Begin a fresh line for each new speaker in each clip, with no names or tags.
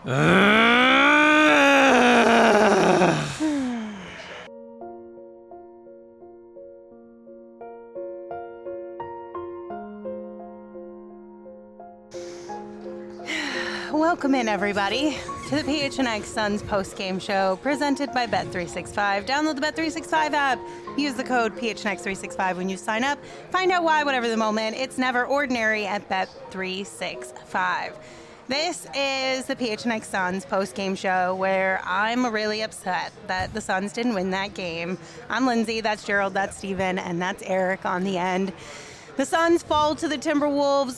Welcome in, everybody, to the PHNX Suns post-game show presented by Bet365. Download the Bet365 app. Use the code PHNX365 when you sign up. Find out why, whatever the moment, it's never ordinary at Bet365. This is the PHNX Suns post-game show where I'm really upset that the Suns didn't win that game. I'm Lindsay, that's Gerald, that's Steven, and that's Eric on the end. The Suns fall to the Timberwolves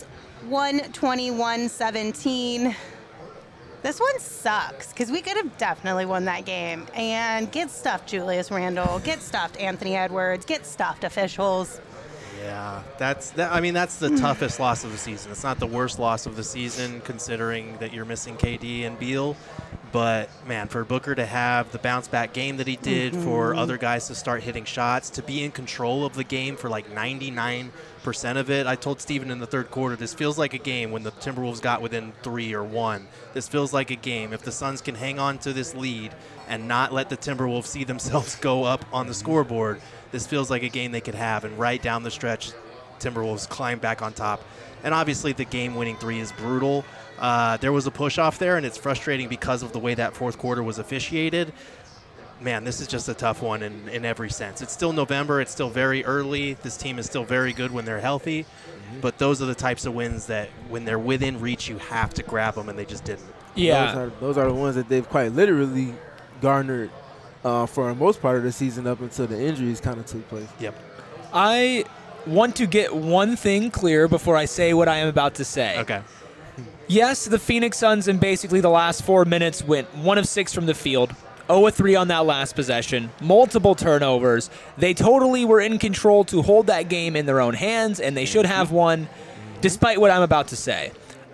121-17. This one sucks because we could have definitely won that game. And get stuffed Julius Randle, get stuffed Anthony Edwards, get stuffed officials.
Yeah, that's the toughest loss of the season. It's not the worst loss of the season considering that you're missing KD and Beal. But, man, for Booker to have the bounce-back game that he did, for other guys to start hitting shots, to be in control of the game for like 99% of it. I told Steven in the third quarter, this feels like a game when the Timberwolves got within 3 or 1. This feels like a game. If the Suns can hang on to this lead and not let the Timberwolves see themselves go up on the scoreboard, this feels like a game they could have. And right down the stretch, Timberwolves climb back on top. And obviously the game-winning 3 is brutal. There was a push-off there, and it's frustrating because of the way that fourth quarter was officiated. Man, this is just a tough one in every sense. It's still November. It's still very early. This team is still very good when they're healthy. But those are the types of wins that when they're within reach, you have to grab them, and they just didn't.
Yeah. Those are the ones that they've quite literally garnered for the most part of the season up until the injuries kind of took place.
Yep.
I want to get one thing clear before I say what I am about to say.
Okay.
Yes, the Phoenix Suns in basically the last 4 minutes went 1 of 6 from the field, 0 of 3 on that last possession, multiple turnovers. They totally were in control to hold that game in their own hands, and they should have won, despite what I'm about to say.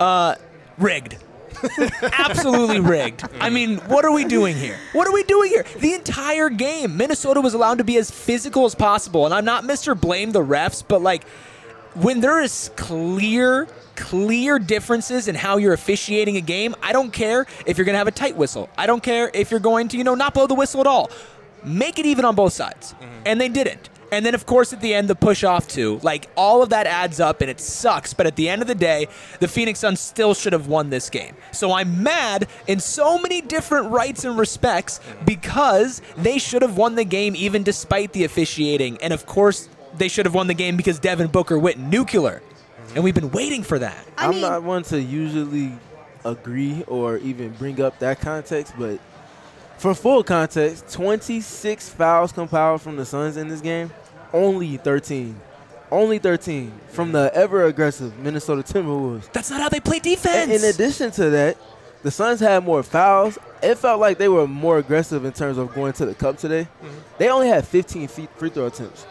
Rigged. Absolutely rigged. I mean, what are we doing here? What are we doing here? The entire game, Minnesota was allowed to be as physical as possible, and I'm not Mr. Blame the refs, but like when there is clear differences in how you're officiating a game, I don't care if you're going to have a tight whistle. I don't care if you're going to, not blow the whistle at all. Make it even on both sides. And they didn't. And then, of course, at the end, the push-off, too. Like, all of that adds up, and it sucks. But at the end of the day, the Phoenix Suns still should have won this game. So I'm mad in so many different rights and respects because they should have won the game even despite the officiating. And, of course, they should have won the game because Devin Booker went nuclear. And we've been waiting for that.
I'm not one to usually agree or even bring up that context, but for full context, 26 fouls compiled from the Suns in this game, only 13. Only 13 from the ever-aggressive Minnesota Timberwolves.
That's not how they play defense.
In addition to that, the Suns had more fouls. It felt like they were more aggressive in terms of going to the cup today. They only had 15 free throw attempts.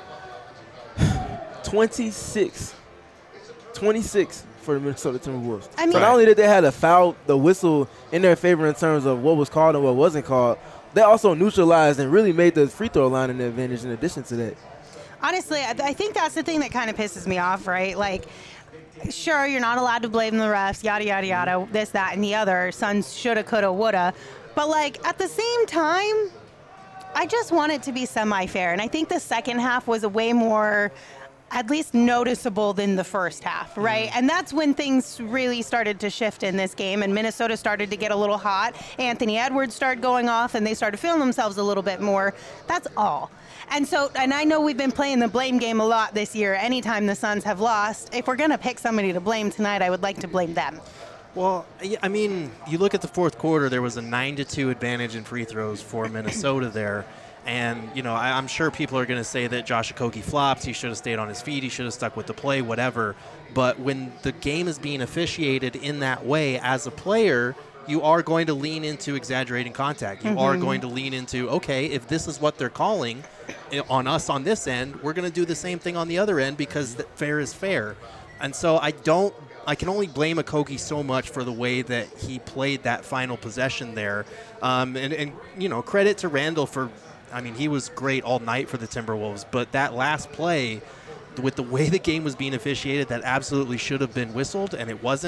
26 for the Minnesota Timberwolves.
I mean,
so not only did they have the whistle in their favor in terms of what was called and what wasn't called, they also neutralized and really made the free throw line an advantage in addition to that.
Honestly, I think that's the thing that kind of pisses me off, right? Like, sure, you're not allowed to blame the refs, yada, yada, yada, this, that, and the other. Suns shoulda, coulda, woulda. But, like, at the same time, I just want it to be semi-fair. And I think the second half was a way more at least noticeable than the first half, right? And that's when things really started to shift in this game, and Minnesota started to get a little hot. Anthony Edwards started going off, and they started feeling themselves a little bit more. That's all. And I know we've been playing the blame game a lot this year. Anytime the Suns have lost, if we're going to pick somebody to blame tonight, I would like to blame them.
Well, I mean, you look at the fourth quarter, there was a 9-2 advantage in free throws for Minnesota there. And, I'm sure people are going to say that Josh Okogie flopped. He should have stayed on his feet. He should have stuck with the play, whatever. But when the game is being officiated in that way as a player, you are going to lean into exaggerating contact. You are going to lean into, okay, if this is what they're calling on us on this end, we're going to do the same thing on the other end because fair is fair. And so I can only blame Okogie so much for the way that he played that final possession there. And credit to Randle for, he was great all night for the Timberwolves, but that last play, with the way the game was being officiated, that absolutely should have been whistled, and it wasn't.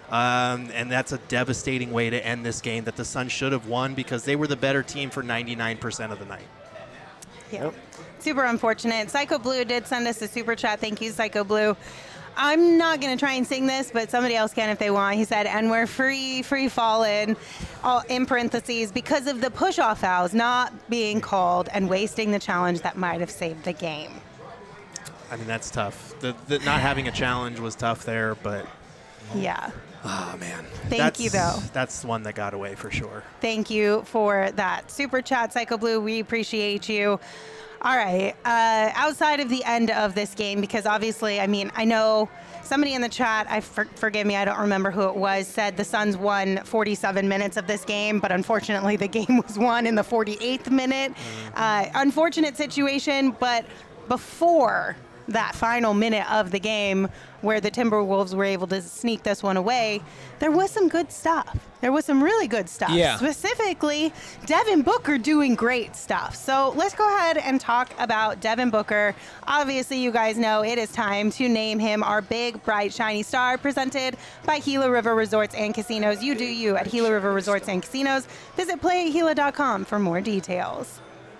And that's a devastating way to end this game that the Suns should have won because they were the better team for 99% of the night.
Yeah. Super unfortunate. Psycho Blue did send us a super chat. Thank you, Psycho Blue. I'm not going to try and sing this, but somebody else can if they want. He said, and we're free falling, all in parentheses, because of the push-off fouls not being called and wasting the challenge that might have saved the game.
I mean, that's tough. The not having a challenge was tough there, but...
Yeah.
Oh, man.
Thank you, though.
That's one that got away for sure.
Thank you for that super chat, Psycho Blue. We appreciate you. All right. Outside of the end of this game, because obviously, I mean, I know somebody in the chat, forgive me, I don't remember who it was, said the Suns won 47 minutes of this game, but unfortunately the game was won in the 48th minute. Unfortunate situation, but before that final minute of the game where the Timberwolves were able to sneak this one away, there was some good stuff. There was some really good stuff.
Yeah.
Specifically, Devin Booker doing great stuff. So let's go ahead and talk about Devin Booker. Obviously, you guys know it is time to name him our big, bright, shiny star, presented by Gila River Resorts and Casinos. You do you at Gila River Resorts and Casinos. Visit playatgila.com for more details.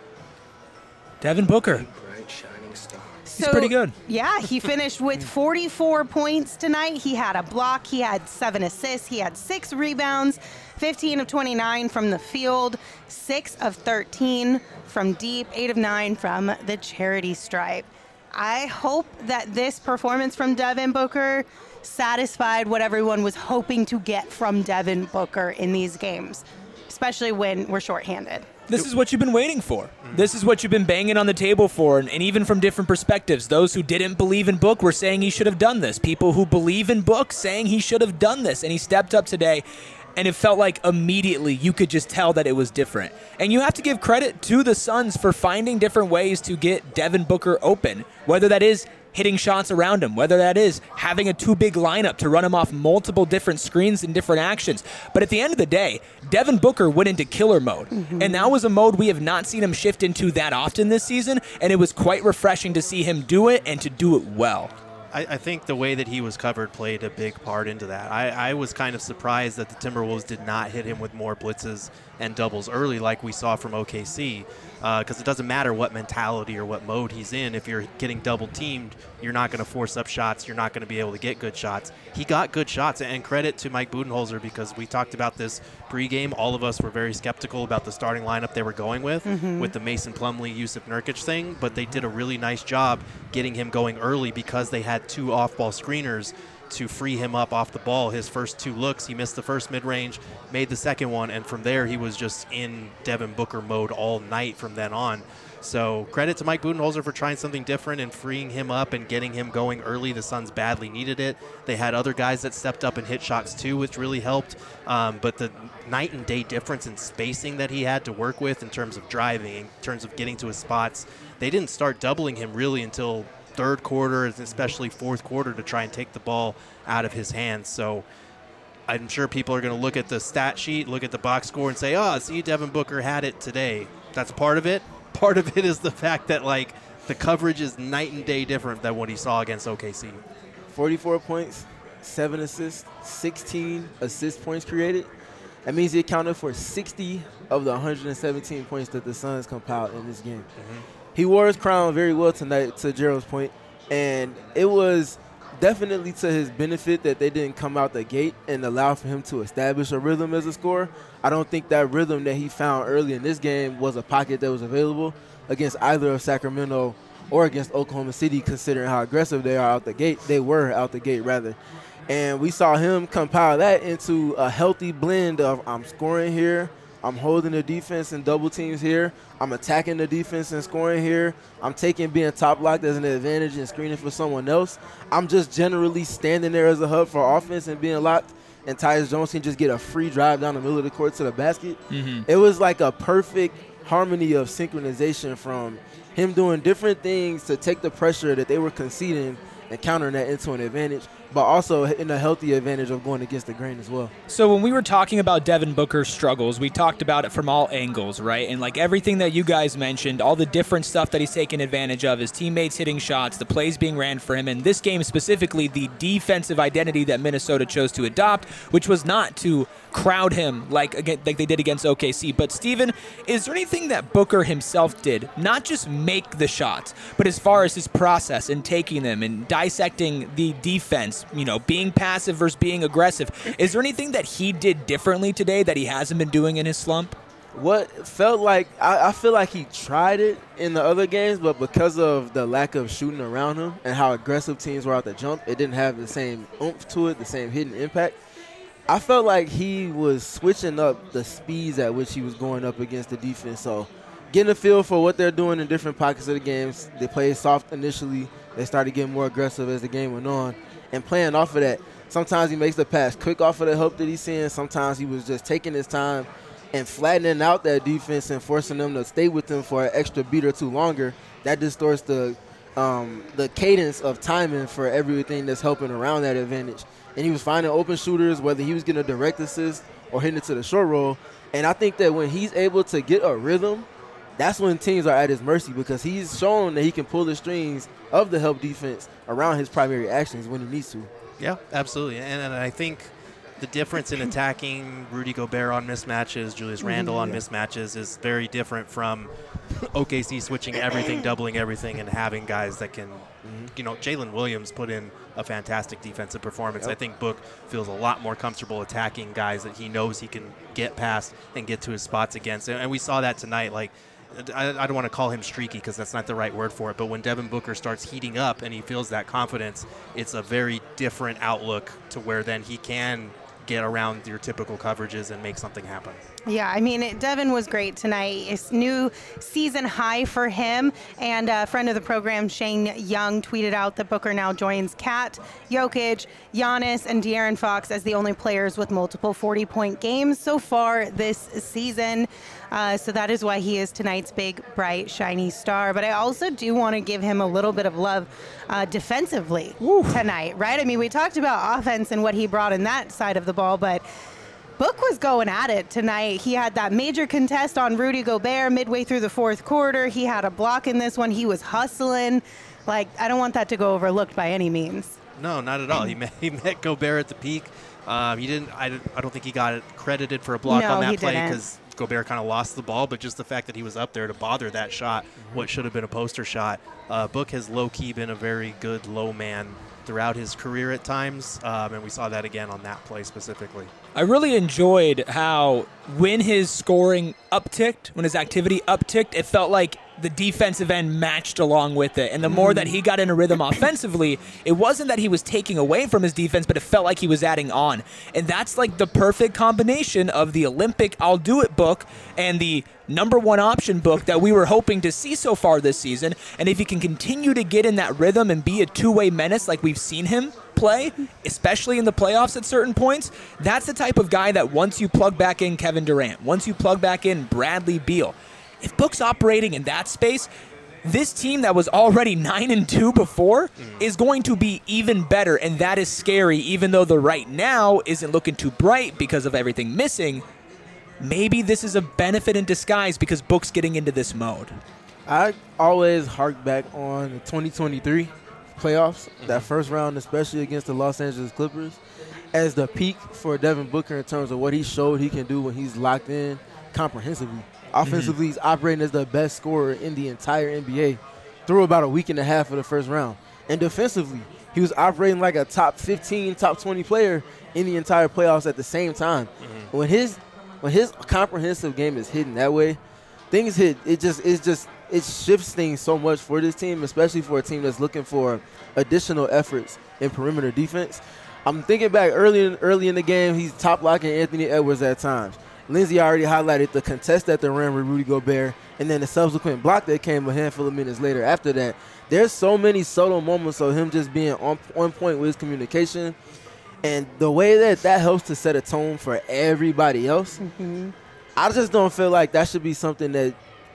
Devin Booker. He's pretty good.
Yeah, he finished with 44 points tonight. He had a block. He had 7 assists. He had 6 rebounds, 15 of 29 from the field, 6 of 13 from deep, 8 of 9 from the charity stripe. I hope that this performance from Devin Booker satisfied what everyone was hoping to get from Devin Booker in these games, especially when we're shorthanded.
This is what you've been waiting for. This is what you've been banging on the table for, and even from different perspectives. Those who didn't believe in Book were saying he should have done this. People who believe in Book saying he should have done this, and he stepped up today, and it felt like immediately you could just tell that it was different. And you have to give credit to the Suns for finding different ways to get Devin Booker open, whether that is hitting shots around him, whether that is having a too big lineup to run him off multiple different screens and different actions. But at the end of the day, Devin Booker went into killer mode. And that was a mode we have not seen him shift into that often this season, and it was quite refreshing to see him do it and to do it well.
I think the way that he was covered played a big part into that. I was kind of surprised that the Timberwolves did not hit him with more blitzes and doubles early like we saw from OKC, because it doesn't matter what mentality or what mode he's in. If you're getting double teamed, you're not going to force up shots. You're not going to be able to get good shots. He got good shots, and credit to Mike Budenholzer, because we talked about this pregame. All of us were very skeptical about the starting lineup they were going with the Mason Plumlee, Yusuf Nurkic thing, but they did a really nice job getting him going early because they had 2 off-ball screeners to free him up off the ball. His first 2 looks, he missed the first mid-range, made the second one, and from there he was just in Devin Booker mode all night from then on. So credit to Mike Budenholzer for trying something different and freeing him up and getting him going early. The Suns badly needed it. They had other guys that stepped up and hit shots too, which really helped. But the night and day difference in spacing that he had to work with in terms of driving, in terms of getting to his spots, they didn't start doubling him really until third quarter, and especially fourth quarter, to try and take the ball out of his hands. So I'm sure people are going to look at the stat sheet, look at the box score, and say, oh, see, Devin Booker had it today. That's part of it. Part of it is the fact that, like, the coverage is night and day different than what he saw against OKC.
44 points, 7 assists, 16 assist points created. That means he accounted for 60 of the 117 points that the Suns compiled in this game. He wore his crown very well tonight, to Gerald's point, and it was definitely to his benefit that they didn't come out the gate and allow for him to establish a rhythm as a scorer. I don't think that rhythm that he found early in this game was a pocket that was available against either of Sacramento or against Oklahoma City, considering how aggressive they are out the gate. They were out the gate, rather. And we saw him compile that into a healthy blend of I'm scoring here, I'm holding the defense and double teams here, I'm attacking the defense and scoring here, I'm taking being top locked as an advantage and screening for someone else. I'm just generally standing there as a hub for offense and being locked, and Tyus Jones can just get a free drive down the middle of the court to the basket. It was like a perfect harmony of synchronization from him doing different things to take the pressure that they were conceding and countering that into an advantage. but also in a healthy advantage of going against the grain as well.
So when we were talking about Devin Booker's struggles, we talked about it from all angles, right? And like everything that you guys mentioned, all the different stuff that he's taken advantage of, his teammates hitting shots, the plays being ran for him, and this game specifically, the defensive identity that Minnesota chose to adopt, which was not to crowd him like they did against OKC. But Steven, is there anything that Booker himself did, not just make the shots, but as far as his process in taking them and dissecting the defense, being passive versus being aggressive, is there anything that he did differently today that he hasn't been doing in his slump?
What felt like, I feel like he tried it in the other games, but because of the lack of shooting around him and how aggressive teams were out the jump, it didn't have the same oomph to it, the same hidden impact. I felt like he was switching up the speeds at which he was going up against the defense. So getting a feel for what they're doing in different pockets of the games. They played soft initially. They started getting more aggressive as the game went on. And playing off of that, sometimes he makes the pass quick off of the help that he's seeing. Sometimes he was just taking his time and flattening out that defense and forcing them to stay with him for an extra beat or two longer. That distorts the cadence of timing for everything that's helping around that advantage. And he was finding open shooters, whether he was getting a direct assist or hitting it to the short roll. And I think that when he's able to get a rhythm, that's when teams are at his mercy, because he's shown that he can pull the strings of the help defense around his primary actions when he needs to.
Yeah, absolutely. And I think the difference in attacking Rudy Gobert on mismatches, Julius Randle on mismatches, is very different from OKC switching everything, doubling everything, and having guys that can, Jalen Williams put in a fantastic defensive performance. I think Book feels a lot more comfortable attacking guys that he knows he can get past and get to his spots against. And we saw that tonight. Like, I don't want to call him streaky because that's not the right word for it, but when Devin Booker starts heating up and he feels that confidence, it's a very different outlook to where then he can get around your typical coverages and make something happen.
Yeah, I mean, Devin was great tonight. It's new season high for him. And a friend of the program, Shane Young, tweeted out that Booker now joins Kat, Jokic, Giannis, and De'Aaron Fox as the only players with multiple 40-point games so far this season. So that is why he is tonight's big, bright, shiny star. But I also do want to give him a little bit of love defensively tonight, right? I mean, we talked about offense and what he brought in that side of the ball, but Book was going at it tonight. He had that major contest on Rudy Gobert midway through the fourth quarter. He had a block in this one. He was hustling. Like, I don't want that to go overlooked by any means.
No, not at all. He met Gobert at the peak. He didn't. I don't think he got it credited for a block on that play because Gobert kind of lost the ball. But just the fact that he was up there to bother that shot, what should have been a poster shot. Book has low-key been a very good low man throughout his career at times, and we saw that again on that play specifically.
I really enjoyed how when his scoring upticked, when his activity upticked, it felt like the defensive end matched along with it. And the more that he got in a rhythm offensively, it wasn't that he was taking away from his defense, but it felt like he was adding on. And that's like the perfect combination of the Olympic I'll do it book and the number one option book that we were hoping to see so far this season. And if he can continue to get in that rhythm and be a two-way menace like we've seen him play, especially in the playoffs at certain points, that's the type of guy that once you plug back in Kevin Durant, once you plug back in Bradley Beal, if Book's operating in that space, this team that was already 9-2 before is going to be even better, and that is scary, even though the right now isn't looking too bright because of everything missing. Maybe this is a benefit in disguise because Book's getting into this mode.
I always hark back on the 2023 playoffs, that first round, especially against the Los Angeles Clippers, as the peak for Devin Booker in terms of what he showed he can do when he's locked in comprehensively. Offensively, he's operating as the best scorer in the entire NBA through about a week and a half of the first round. And defensively, he was operating like a top 15, top 20 player in the entire playoffs at the same time. When his comprehensive game is hitting that way, things hit. It shifts things so much for this team, especially for a team that's looking for additional efforts in perimeter defense. I'm thinking back early in the game, he's top locking Anthony Edwards at times. Lindsay already highlighted the contest at the rim with Rudy Gobert, and then the subsequent block that came a handful of minutes later after that. There's so many subtle moments of him just being on point with his communication, and the way that helps to set a tone for everybody else. I just don't feel like that should be something that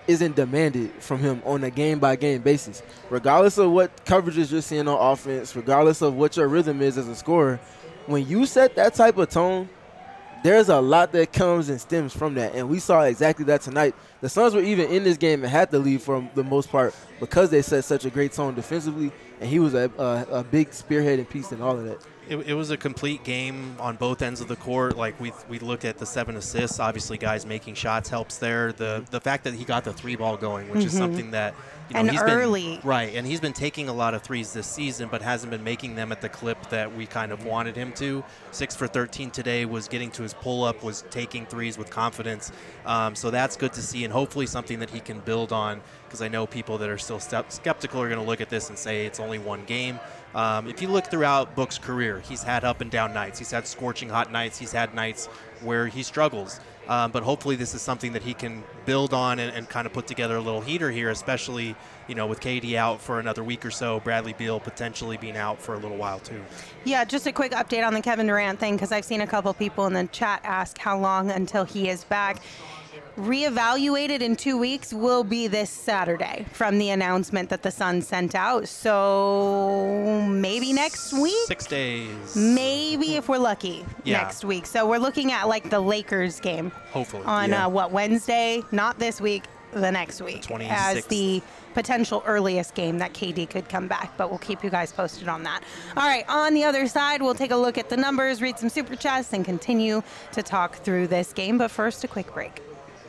isn't demanded from him on a game-by-game basis. Regardless of what coverages you're seeing on offense, regardless of what your rhythm is as a scorer, when you set that type of tone, there's a lot that comes and stems from that, and we saw exactly that tonight. The Suns were even in this game and had to lead for the most part because they set such a great tone defensively, and he was a big spearheading piece in all of that.
It was a complete game on both ends of the court. Like we look at the 7 assists. Obviously, guys making shots helps there. The fact that he got the 3-ball going, which is something that
and
he's
early.
been right, and he's been taking a lot of threes this season, but hasn't been making them at the clip that we kind of wanted him to. 6 for 13 today, was getting to his pull up, was taking threes with confidence. So that's good to see, and hopefully something that he can build on. Because I know people that are still skeptical are going to look at this and say it's only one game. If you look throughout Book's career, he's had up and down nights. He's had scorching hot nights. He's had nights where he struggles. But hopefully this is something that he can build on and kind of put together a little heater here, especially, with KD out for another week or so, Bradley Beal potentially being out for a little while too.
Yeah, just a quick update on the Kevin Durant thing, because I've seen a couple people in the chat ask how long until he is back. Reevaluated in 2 weeks will be this Saturday from the announcement that the Suns sent out. So maybe next week?
6 days.
Maybe if we're lucky next week. So we're looking at like the Lakers game.
Hopefully.
On Wednesday? Not this week, the next week.
26th.
As the potential earliest game that KD could come back, but we'll keep you guys posted on that. All right, on the other side, we'll take a look at the numbers, read some super chats, and continue to talk through this game. But first, a quick break.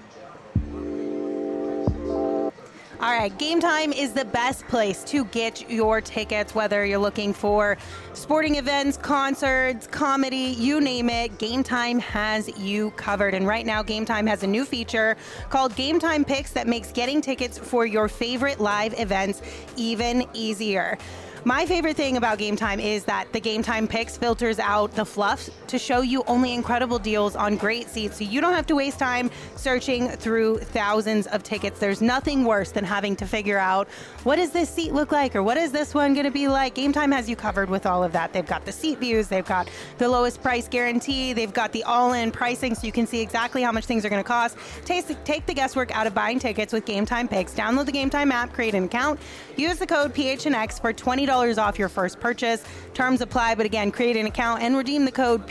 All right, Game Time is the best place to get your tickets, whether you're looking for sporting events, concerts, comedy, you name it. Game Time has you covered. And right now, Game Time has a new feature called Game Time Picks that makes getting tickets for your favorite live events even easier. My favorite thing about Game Time is that the Game Time Picks filters out the fluff to show you only incredible deals on great seats, so you don't have to waste time searching through thousands of tickets. There's nothing worse than having to figure out, what does this seat look like, or what is this one going to be like? Game Time has you covered with all of that. They've got the seat views, they've got the lowest price guarantee, they've got the all-in pricing, so you can see exactly how much things are going to cost. Take the guesswork out of buying tickets with Game Time Picks. Download the Game Time app, create an account, use the code PHNX for $20 off your first purchase. Terms apply, but again, create an account and redeem the code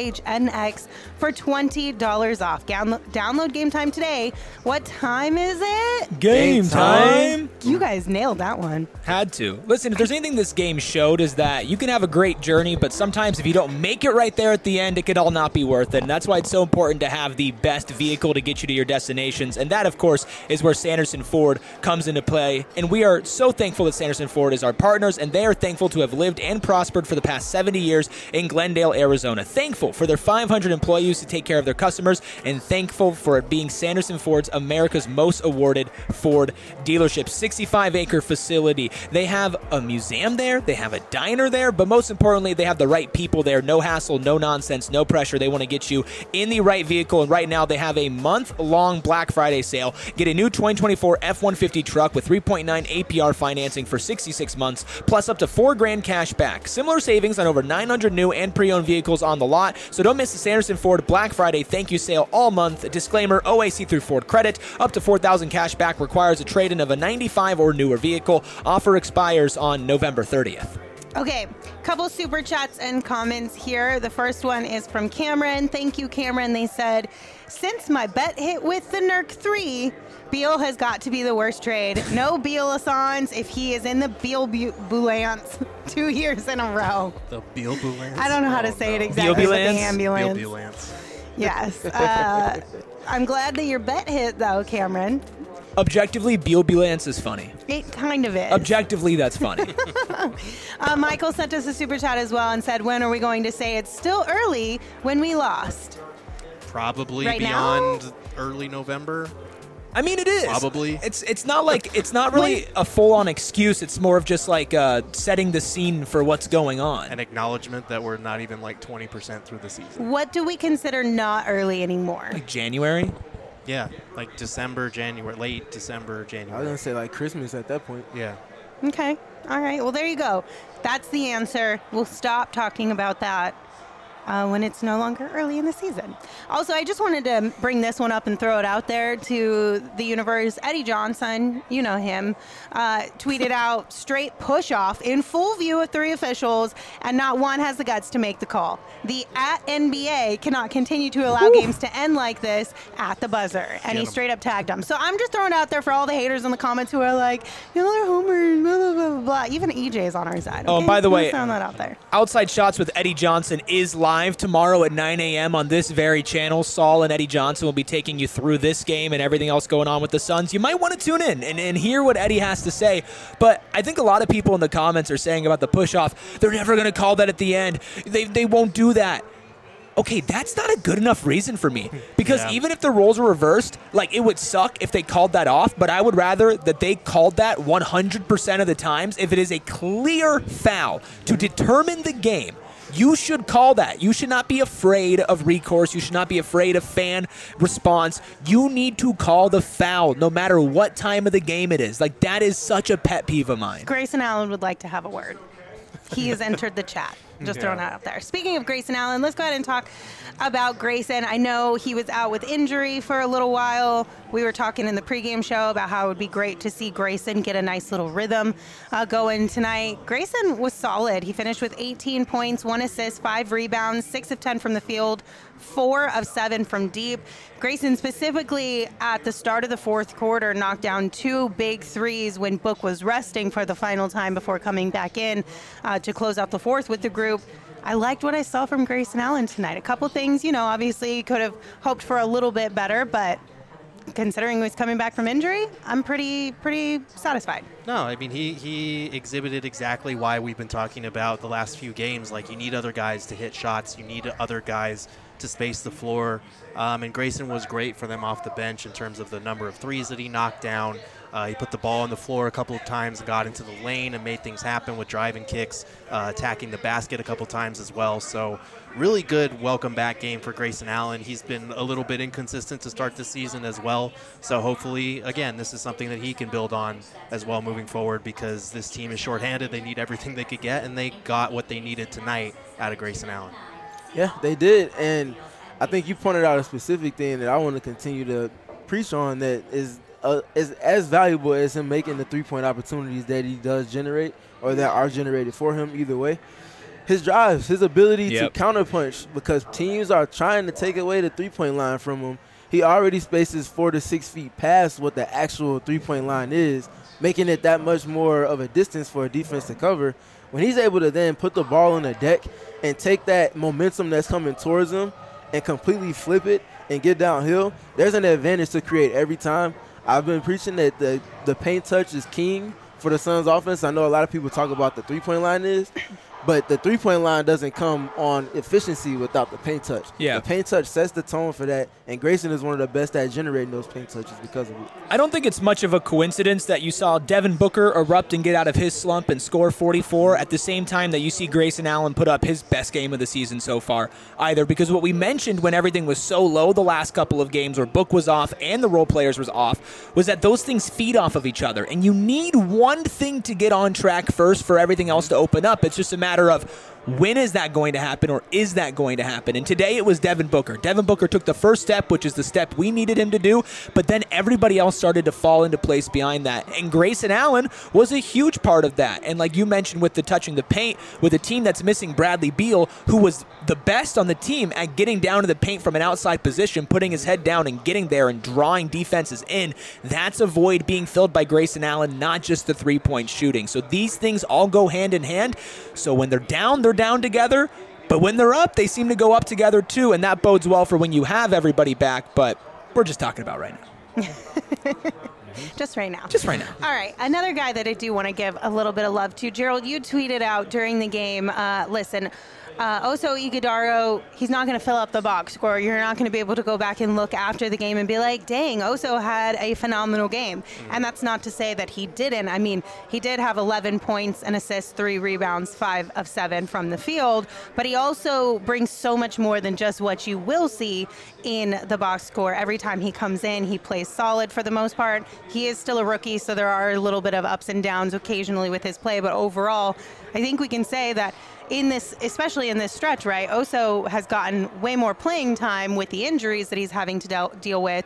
PHNX for $20 off. Download Game Time today. What time is it?
Game time.
You guys nailed that one.
Had to. Listen, if there's anything this game showed is that you can have a great journey, but sometimes if you don't make it right there at the end, it could all not be worth it. And that's why it's so important to have the best vehicle to get you to your destinations. And that, of course, is where Sanderson Ford comes into play. And we are so thankful that Sanderson Ford is our partners, and they are thankful to have lived and prospered for the past 70 years in Glendale, Arizona. Thankful for their 500 employees to take care of their customers, and thankful for it being Sanderson Ford's America's most awarded Ford dealership. 65-acre facility. They have a museum there. They have a diner there. But most importantly, they have the right people there. No hassle, no nonsense, no pressure. They want to get you in the right vehicle. And right now, they have a month-long Black Friday sale. Get a new 2024 F-150 truck with 3.9 APR financing for 66 months, plus up to $4,000 cash back. Similar savings on over 900 new and pre-owned vehicles on the lot. So don't miss the Sanderson Ford Black Friday thank you sale all month. Disclaimer, OAC through Ford credit. Up to $4,000 cash back requires a trade-in of a 95 or newer vehicle. Offer expires on November 30th.
Okay, couple super chats and comments here. The first one is from Cameron. Thank you, Cameron. They said, since my bet hit with the Nurk 3, Beal has got to be the worst trade. No Beal-a-thons if he is in the Beal-bulance 2 years in a row.
The Beal-bulance?
I don't know how to say it exactly.
Beal-bulance?
The ambulance.
Beal-bulance.
Yes. I'm glad that your bet hit, though, Cameron.
Objectively, Beal-bulance is funny.
It kind of is.
Objectively, that's funny.
Michael sent us a super chat as well and said, when are we going to say it's still early when we lost?
Probably
Right
beyond
now?
early November.
I mean, it is.
Probably.
It's not really a full-on excuse. It's more of just like setting the scene for what's going on.
An acknowledgement that we're not even like 20% through the season.
What do we consider not early anymore?
Like January?
Yeah, like December, January, late December,
I was
January.
going to say like Christmas at that point.
Yeah.
Okay. All right. Well, there you go. That's the answer. We'll stop talking about that. when it's no longer early in the season. Also, I just wanted to bring this one up and throw it out there to the universe. Eddie Johnson, you know him, tweeted out straight push-off in full view of 3 officials, and not one has the guts to make the call. The @NBA cannot continue to allow games to end like this at the buzzer. And he straight up tagged them. So I'm just throwing it out there for all the haters in the comments who are like, you know, they're homers, blah, blah, blah, blah, blah. Even EJ is on our side.
Oh,
okay?
by the
Just
way,
throwing that out there.
Outside Shots with Eddie Johnson is live tomorrow at 9 a.m. on this very channel. Saul and Eddie Johnson will be taking you through this game and everything else going on with the Suns. You might want to tune in and hear what Eddie has to say. But I think a lot of people in the comments are saying about the push-off, they're never going to call that at the end. They won't do that. Okay, that's not a good enough reason for me. Because even if the roles were reversed, like, it would suck if they called that off, but I would rather that they called that 100% of the times. If it is a clear foul to determine the game, you should call that. You should not be afraid of recourse. You should not be afraid of fan response. You need to call the foul no matter what time of the game it is. Like, that is such a pet peeve of mine.
Grayson Allen would like to have a word. He has entered the chat. Just throwing that out there. Speaking of Grayson Allen, let's go ahead and talk about Grayson. I know he was out with injury for a little while. We were talking in the pregame show about how it would be great to see Grayson get a nice little rhythm going tonight. Grayson was solid. He finished with 18 points, 1 assist, 5 rebounds, 6 of 10 from the field, 4 of 7 from deep. Grayson specifically at the start of the fourth quarter knocked down 2 big threes when Book was resting for the final time before coming back in to close out the fourth with the group. I liked what I saw from Grayson Allen tonight. A couple things, you know, obviously could have hoped for a little bit better, but considering he was coming back from injury, I'm pretty satisfied.
No, I mean, he exhibited exactly why we've been talking about the last few games. Like, you need other guys to hit shots. You need other guys to space the floor. And Grayson was great for them off the bench in terms of the number of threes that he knocked down. He put the ball on the floor a couple of times and got into the lane and made things happen with driving kicks, attacking the basket a couple times as well. So really good welcome back game for Grayson Allen. He's been a little bit inconsistent to start the season as well. So hopefully, again, this is something that he can build on as well moving forward, because this team is shorthanded. They need everything they could get, and they got what they needed tonight out of Grayson Allen.
Yeah, they did. And I think you pointed out a specific thing that I want to continue to preach on that is as valuable as him making the three-point opportunities that he does generate, or that are generated for him either way. His drives, his ability to counterpunch, because teams are trying to take away the three-point line from him. He already spaces 4 to 6 feet past what the actual three-point line is, making it that much more of a distance for a defense to cover. When he's able to then put the ball on the deck and take that momentum that's coming towards him and completely flip it and get downhill, there's an advantage to create every time. I've been preaching that the paint touch is king for the Suns offense. I know a lot of people talk about the three-point line is, but the three-point line doesn't come on efficiency without the paint touch.
Yeah.
The paint touch sets the tone for that, and Grayson is one of the best at generating those paint touches because of it.
I don't think it's much of a coincidence that you saw Devin Booker erupt and get out of his slump and score 44 at the same time that you see Grayson Allen put up his best game of the season so far either, because what we mentioned when everything was so low the last couple of games where Book was off and the role players was off was that those things feed off of each other, and you need one thing to get on track first for everything else to open up. It's just a matter of when is that going to happen, or is that going to happen? And today it was Devin Booker. Devin Booker took the first step, which is the step we needed him to do, but then everybody else started to fall into place behind that. And Grayson Allen was a huge part of that. And like you mentioned with the touching the paint, with a team that's missing Bradley Beal, who was the best on the team at getting down to the paint from an outside position, putting his head down and getting there and drawing defenses in, that's a void being filled by Grayson Allen, not just the three-point shooting. So these things all go hand in hand. So when they're down together, but when they're up, they seem to go up together too, and that bodes well for when you have everybody back, but we're just talking about right now.
Just right now.
Just right now.
All right. Another guy that I do want to give a little bit of love to. Gerald, you tweeted out during the game, listen, Oso Ighodaro, he's not going to fill up the box score. You're not going to be able to go back and look after the game and be like, dang, Oso had a phenomenal game. And that's not to say that he didn't. I mean, he did have 11 points, an assist, 3 rebounds, 5 of 7 from the field. But he also brings so much more than just what you will see in the box score. Every time he comes in, he plays solid for the most part. He is still a rookie, so there are a little bit of ups and downs occasionally with his play. But overall, I think we can say that especially in this stretch, right? Oso has gotten way more playing time with the injuries that he's having to deal with.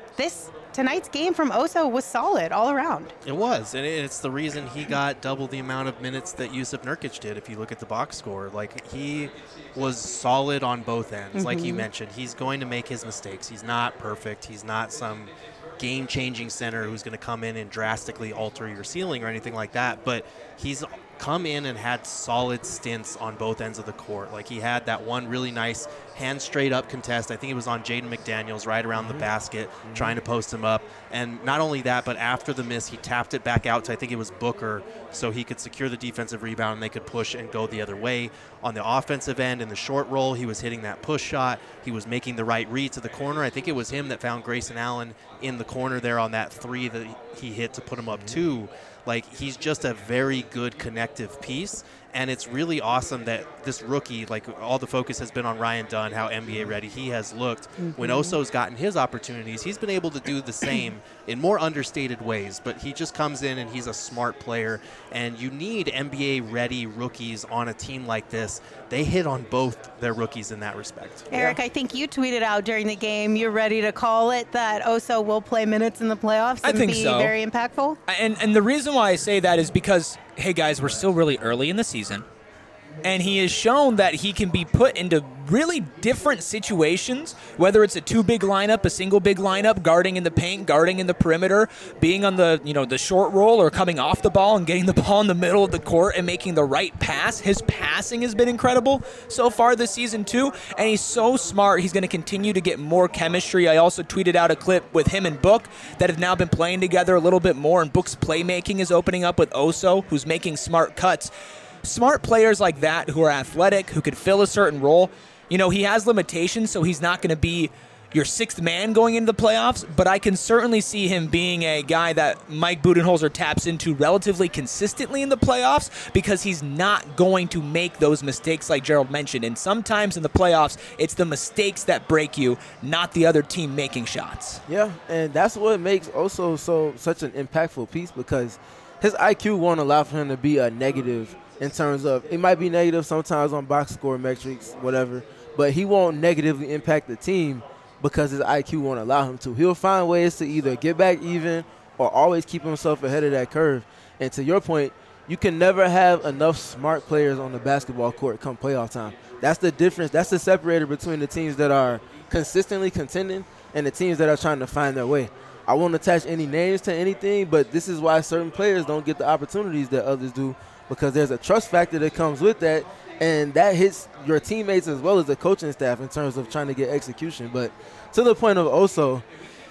Tonight's game from Oso was solid all around.
It was, and it's the reason he got double the amount of minutes that Yusuf Nurkic did. If you look at the box score, like, he was solid on both ends. Like you mentioned, he's going to make his mistakes. He's not perfect. He's not some game-changing center who's going to come in and drastically alter your ceiling or anything like that. But he's come in and had solid stints on both ends of the court. Like, he had that one really nice hand straight up contest. I think it was on Jaden McDaniels right around the basket, trying to post him up. And not only that, but after the miss, he tapped it back out to, I think it was Booker, so he could secure the defensive rebound and they could push and go the other way. On the offensive end, in the short roll, he was hitting that push shot. He was making the right read to the corner. I think it was him that found Grayson Allen in the corner there on that three that he hit to put him up 2. Like, he's just a very good connective piece, and it's really awesome that this rookie, like, all the focus has been on Ryan Dunn, how NBA ready he has looked. When Oso's gotten his opportunities, he's been able to do the same in more understated ways, but he just comes in and he's a smart player, and you need NBA ready rookies on a team like this. They hit on both their rookies in that respect.
Eric, I think you tweeted out during the game, you're ready to call it that Oso will play minutes in the playoffs and be very impactful?
And the reason why I say that is because, hey guys, we're still really early in the season, and he has shown that he can be put into really different situations, whether it's a 2 big lineup, a single big lineup, guarding in the paint, guarding in the perimeter, being on the the short roll, or coming off the ball and getting the ball in the middle of the court and making the right pass. His passing has been incredible so far this season too, and he's so smart. He's going to continue to get more chemistry. I also tweeted out a clip with him and Book that have now been playing together a little bit more, and Book's playmaking is opening up with Oso, who's making smart cuts. Smart players like that who are athletic, who could fill a certain role. He has limitations, so he's not going to be your sixth man going into the playoffs, but I can certainly see him being a guy that Mike Budenholzer taps into relatively consistently in the playoffs, because he's not going to make those mistakes like Gerald mentioned. And sometimes in the playoffs, it's the mistakes that break you, not the other team making shots.
Yeah, and that's what makes Oso such an impactful piece, because his IQ won't allow for him to be a negative in terms of, it might be negative sometimes on box score metrics, whatever, but he won't negatively impact the team because his IQ won't allow him to. He'll find ways to either get back even or always keep himself ahead of that curve. And to your point, you can never have enough smart players on the basketball court come playoff time. That's the difference. That's the separator between the teams that are consistently contending and the teams that are trying to find their way. I won't attach any names to anything, but this is why certain players don't get the opportunities that others do, because there's a trust factor that comes with that, and that hits your teammates as well as the coaching staff in terms of trying to get execution. But to the point of Oso,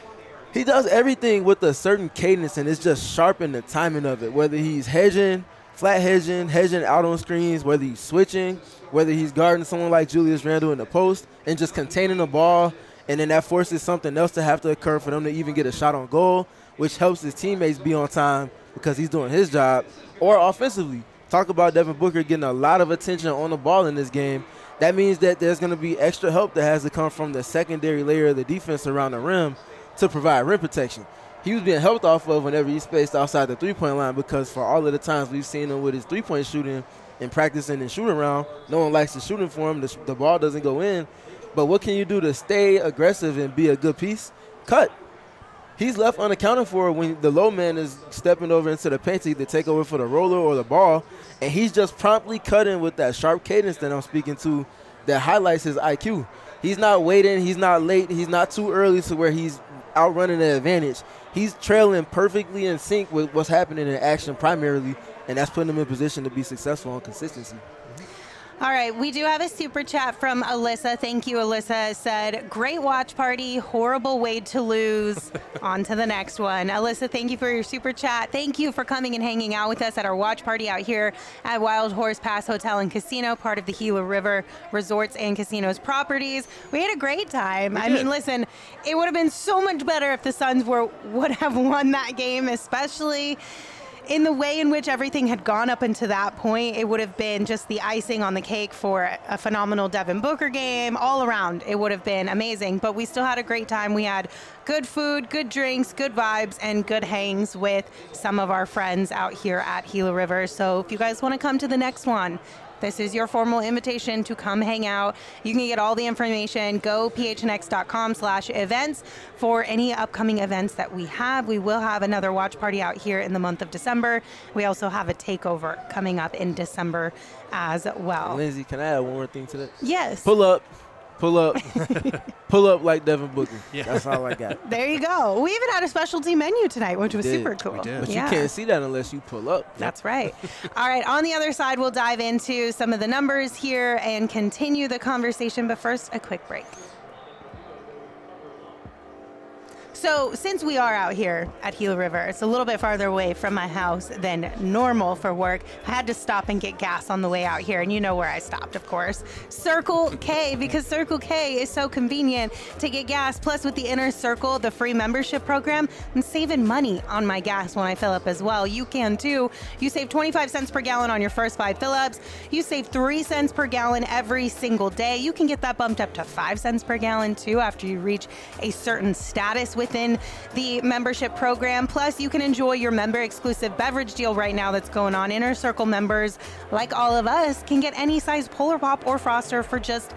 he does everything with a certain cadence, and it's just sharp in the timing of it, whether he's hedging, flat hedging out on screens, whether he's switching, whether he's guarding someone like Julius Randle in the post and just containing the ball, and then that forces something else to have to occur for them to even get a shot on goal, which helps his teammates be on time because he's doing his job. Or offensively, talk about Devin Booker getting a lot of attention on the ball in this game. That means that there's going to be extra help that has to come from the secondary layer of the defense around the rim to provide rim protection. He was being helped off of whenever he spaced outside the three-point line, because for all of the times we've seen him with his three-point shooting and practicing and shooting around, no one likes the shooting for him. The ball doesn't go in. But what can you do to stay aggressive and be a good piece? Cut. He's left unaccounted for when the low man is stepping over into the paint to either take over for the roller or the ball, and he's just promptly cutting with that sharp cadence that I'm speaking to that highlights his IQ. He's not waiting. He's not late. He's not too early to where he's outrunning the advantage. He's trailing perfectly in sync with what's happening in action primarily, and that's putting him in position to be successful on consistency.
All right, we do have a super chat from Alyssa. Thank you, Alyssa. Said, great watch party, horrible way to lose. On to the next one. Alyssa, thank you for your super chat. Thank you for coming and hanging out with us at our watch party out here at Wild Horse Pass Hotel and Casino, part of the Gila River Resorts and Casinos properties. We had a great time. I mean, listen, it would have been so much better if the Suns would have won that game, especially in the way in which everything had gone up until that point. It would have been just the icing on the cake for a phenomenal Devin Booker game. All around, it would have been amazing. But we still had a great time. We had good food, good drinks, good vibes, and good hangs with some of our friends out here at Gila River. So if you guys want to come to the next one, This is your formal invitation to come hang out. You can get all the information. Go phnx.com/events for any upcoming events that we have. We will have another watch party out here in the month of December. We also have a takeover coming up in December as well.
Lindsay, can I add one more thing to that?
Yes.
Pull up. Pull up like Devin Booker.
Yeah.
That's all I got.
There you go. We even had a specialty menu tonight, which was
did.
super cool.
We did.
But
Yeah.
you can't see that unless you pull up.
That's right. All right, on the other side, we'll dive into some of the numbers here and continue the conversation, but first, a quick break. So since we are out here at Gila River, it's a little bit farther away from my house than normal for work. I had to stop and get gas on the way out here, and you know where I stopped, of course. Circle K, because Circle K is so convenient to get gas. Plus, with the Inner Circle, the free membership program, I'm saving money on my gas when I fill up as well. You can too. You save 25 cents per gallon on your first 5 fill-ups. You save 3 cents per gallon every single day. You can get that bumped up to 5 cents per gallon too after you reach a certain status within the membership program. Plus, you can enjoy your member exclusive beverage deal right now that's going on. Inner Circle members, like all of us, can get any size Polar Pop or Froster for just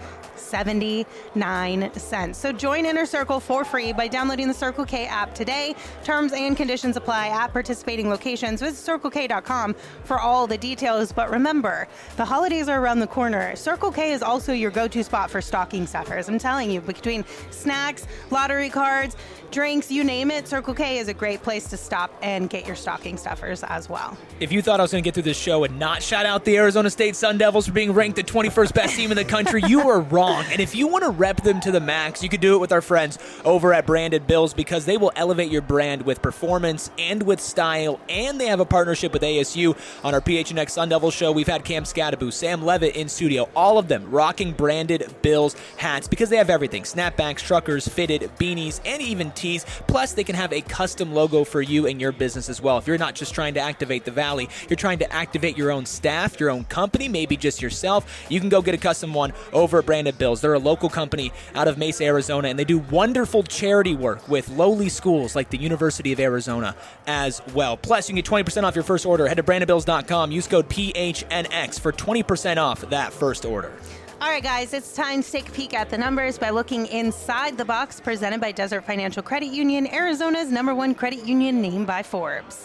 79 cents. So join Inner Circle for free by downloading the Circle K app today. Terms and conditions apply at participating locations. Visit CircleK.com for all the details. But remember, the holidays are around the corner. Circle K is also your go-to spot for stocking stuffers. I'm telling you, between snacks, lottery cards, drinks, you name it, Circle K is a great place to stop and get your stocking stuffers as well.
If you thought I was going to get through this show and not shout out the Arizona State Sun Devils for being ranked the 21st best team in the country, you were wrong. And if you want to rep them to the max, you could do it with our friends over at Branded Bills, because they will elevate your brand with performance and with style. And they have a partnership with ASU. On our PHNX Sun Devils show, we've had Cam Scadaboo, Sam Levitt in studio, all of them rocking Branded Bills hats, because they have everything: snapbacks, truckers, fitted, beanies, and even tees. Plus, they can have a custom logo for you and your business as well. If you're not just trying to activate the Valley, you're trying to activate your own staff, your own company, maybe just yourself, you can go get a custom one over at Branded Bills. They're a local company out of Mesa, Arizona, and they do wonderful charity work with lowly schools like the University of Arizona as well. Plus, you can get 20% off your first order. Head to brandedbills.com. Use code PHNX for 20% off that first order.
All right, guys, it's time to take a peek at the numbers by looking inside the box presented by Desert Financial Credit Union, Arizona's #1 credit union named by Forbes.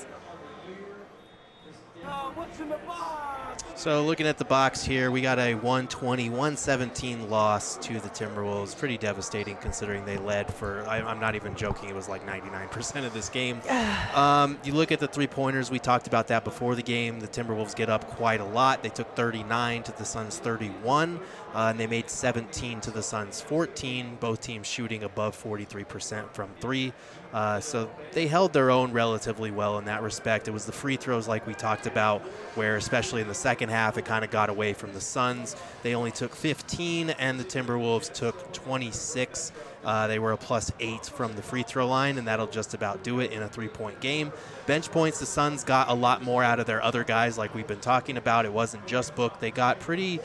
So looking at the box here, we got a 120-117 loss to the Timberwolves. Pretty devastating considering they led for, I'm not even joking, it was like 99% of this game. You look at the three-pointers, we talked about that before the game. The Timberwolves get up quite a lot. They took 39 to the Suns 31, and they made 17 to the Suns 14, both teams shooting above 43% from three. So they held their own relatively well in that respect. It was the free throws like we talked about, where especially in the second half, it kind of got away from the Suns. They only took 15, and the Timberwolves took 26. They were a +8 from the free throw line, and that'll just about do it in a three-point game. Bench points, the Suns got a lot more out of their other guys like we've been talking about. It wasn't just Book. They got pretty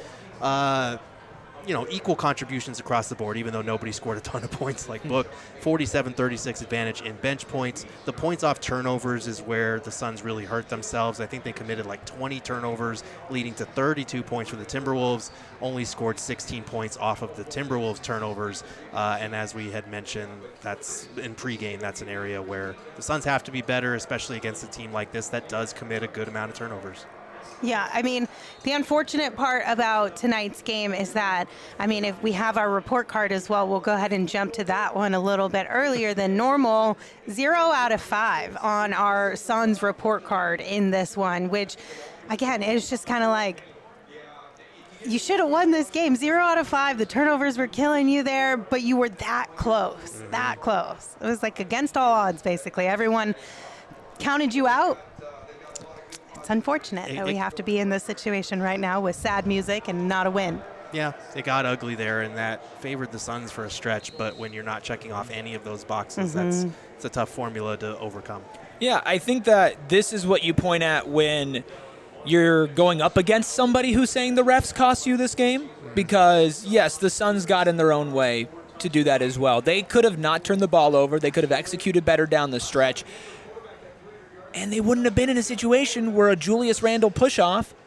equal contributions across the board, even though nobody scored a ton of points like Book. 47-36 advantage in bench points. The points off turnovers is where the Suns really hurt themselves. I think they committed like 20 turnovers, leading to 32 points for the Timberwolves. Only scored 16 points off of the Timberwolves turnovers. And as we had mentioned, that's in pregame, that's an area where the Suns have to be better, especially against a team like this that does commit a good amount of turnovers.
Yeah, I mean, the unfortunate part about tonight's game is that, if we have our report card as well, we'll go ahead and jump to that one a little bit earlier than normal. 0 out of 5 on our Suns report card in this one, which, again, is just kind of like, you should have won this game. 0 out of 5. The turnovers were killing you there, but you were that close, that close. It was like against all odds, basically. Everyone counted you out. It's unfortunate that we have to be in this situation right now with sad music and not a win.
Yeah, it got ugly there, and that favored the Suns for a stretch. But when you're not checking off any of those boxes, it's a tough formula to overcome.
Yeah, I think that this is what you point at when you're going up against somebody who's saying the refs cost you this game. Because, yes, the Suns got in their own way to do that as well. They could have not turned the ball over. They could have executed better down the stretch. And they wouldn't have been in a situation where a Julius Randle push-off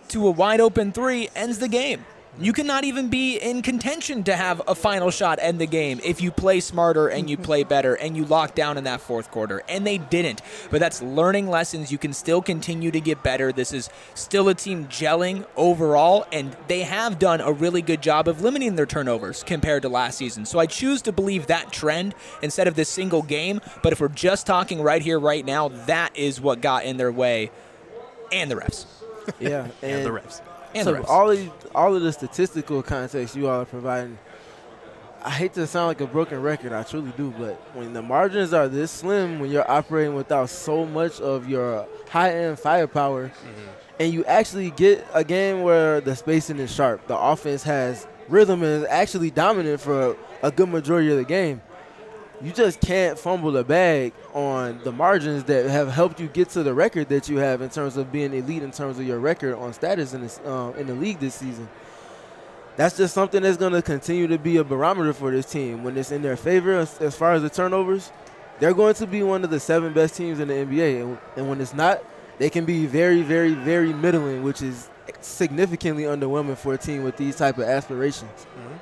to a wide open three ends the game. You cannot even be in contention to have a final shot end the game if you play smarter and you play better and you lock down in that fourth quarter. And they didn't. But that's learning lessons. You can still continue to get better. This is still a team gelling overall, and they have done a really good job of limiting their turnovers compared to last season. So I choose to believe that trend instead of this single game. But if we're just talking right here, right now, that is what got in their way. And the refs.
Yeah.
And the refs.
And
so
the refs.
all of the statistical context you all are providing, I hate to sound like a broken record, I truly do, but when the margins are this slim, when you're operating without so much of your high-end firepower, and you actually get a game where the spacing is sharp, the offense has rhythm and is actually dominant for a good majority of the game, you just can't fumble the bag on the margins that have helped you get to the record that you have in terms of being elite in terms of your record on status in the league this season. That's just something that's going to continue to be a barometer for this team. When it's in their favor as far as the turnovers, they're going to be one of the 7 best teams in the NBA. And when it's not, they can be very, very, very middling, which is significantly underwhelming for a team with these type of aspirations.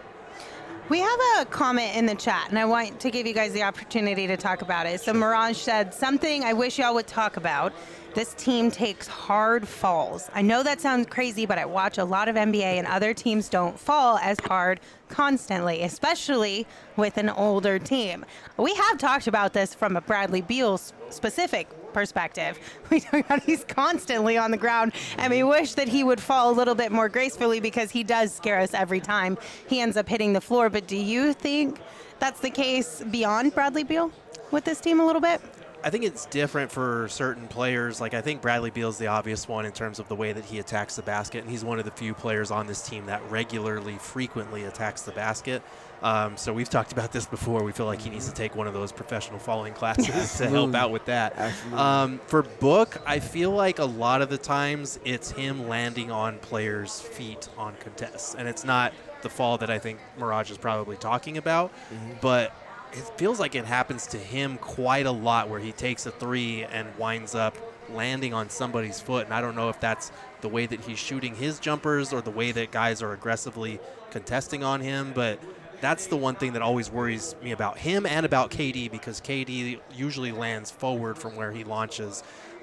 We have a comment in the chat, and I want to give you guys the opportunity to talk about it. So Mirage said, something I wish y'all would talk about. This team takes hard falls. I know that sounds crazy, but I watch a lot of NBA, and other teams don't fall as hard constantly, especially with an older team. We have talked about this from a Bradley Beal specific perspective. We talk about he's constantly on the ground, and we wish that he would fall a little bit more gracefully because he does scare us every time he ends up hitting the floor. But do you think that's the case beyond Bradley Beal with this team a little bit?
I think it's different for certain players. Like, I think Bradley Beal's the obvious one in terms of the way that he attacks the basket, and he's one of the few players on this team that regularly, frequently attacks the basket. So we've talked about this before. We feel like he needs to take one of those professional falling classes to help out with that. For Book, I feel like a lot of the times it's him landing on players' feet on contests, and it's not the fall that I think Mirage is probably talking about, but it feels like it happens to him quite a lot where he takes a three and winds up landing on somebody's foot. And I don't know if that's the way that he's shooting his jumpers or the way that guys are aggressively contesting on him. But that's the one thing that always worries me about him and about KD, because KD usually lands forward from where he launches.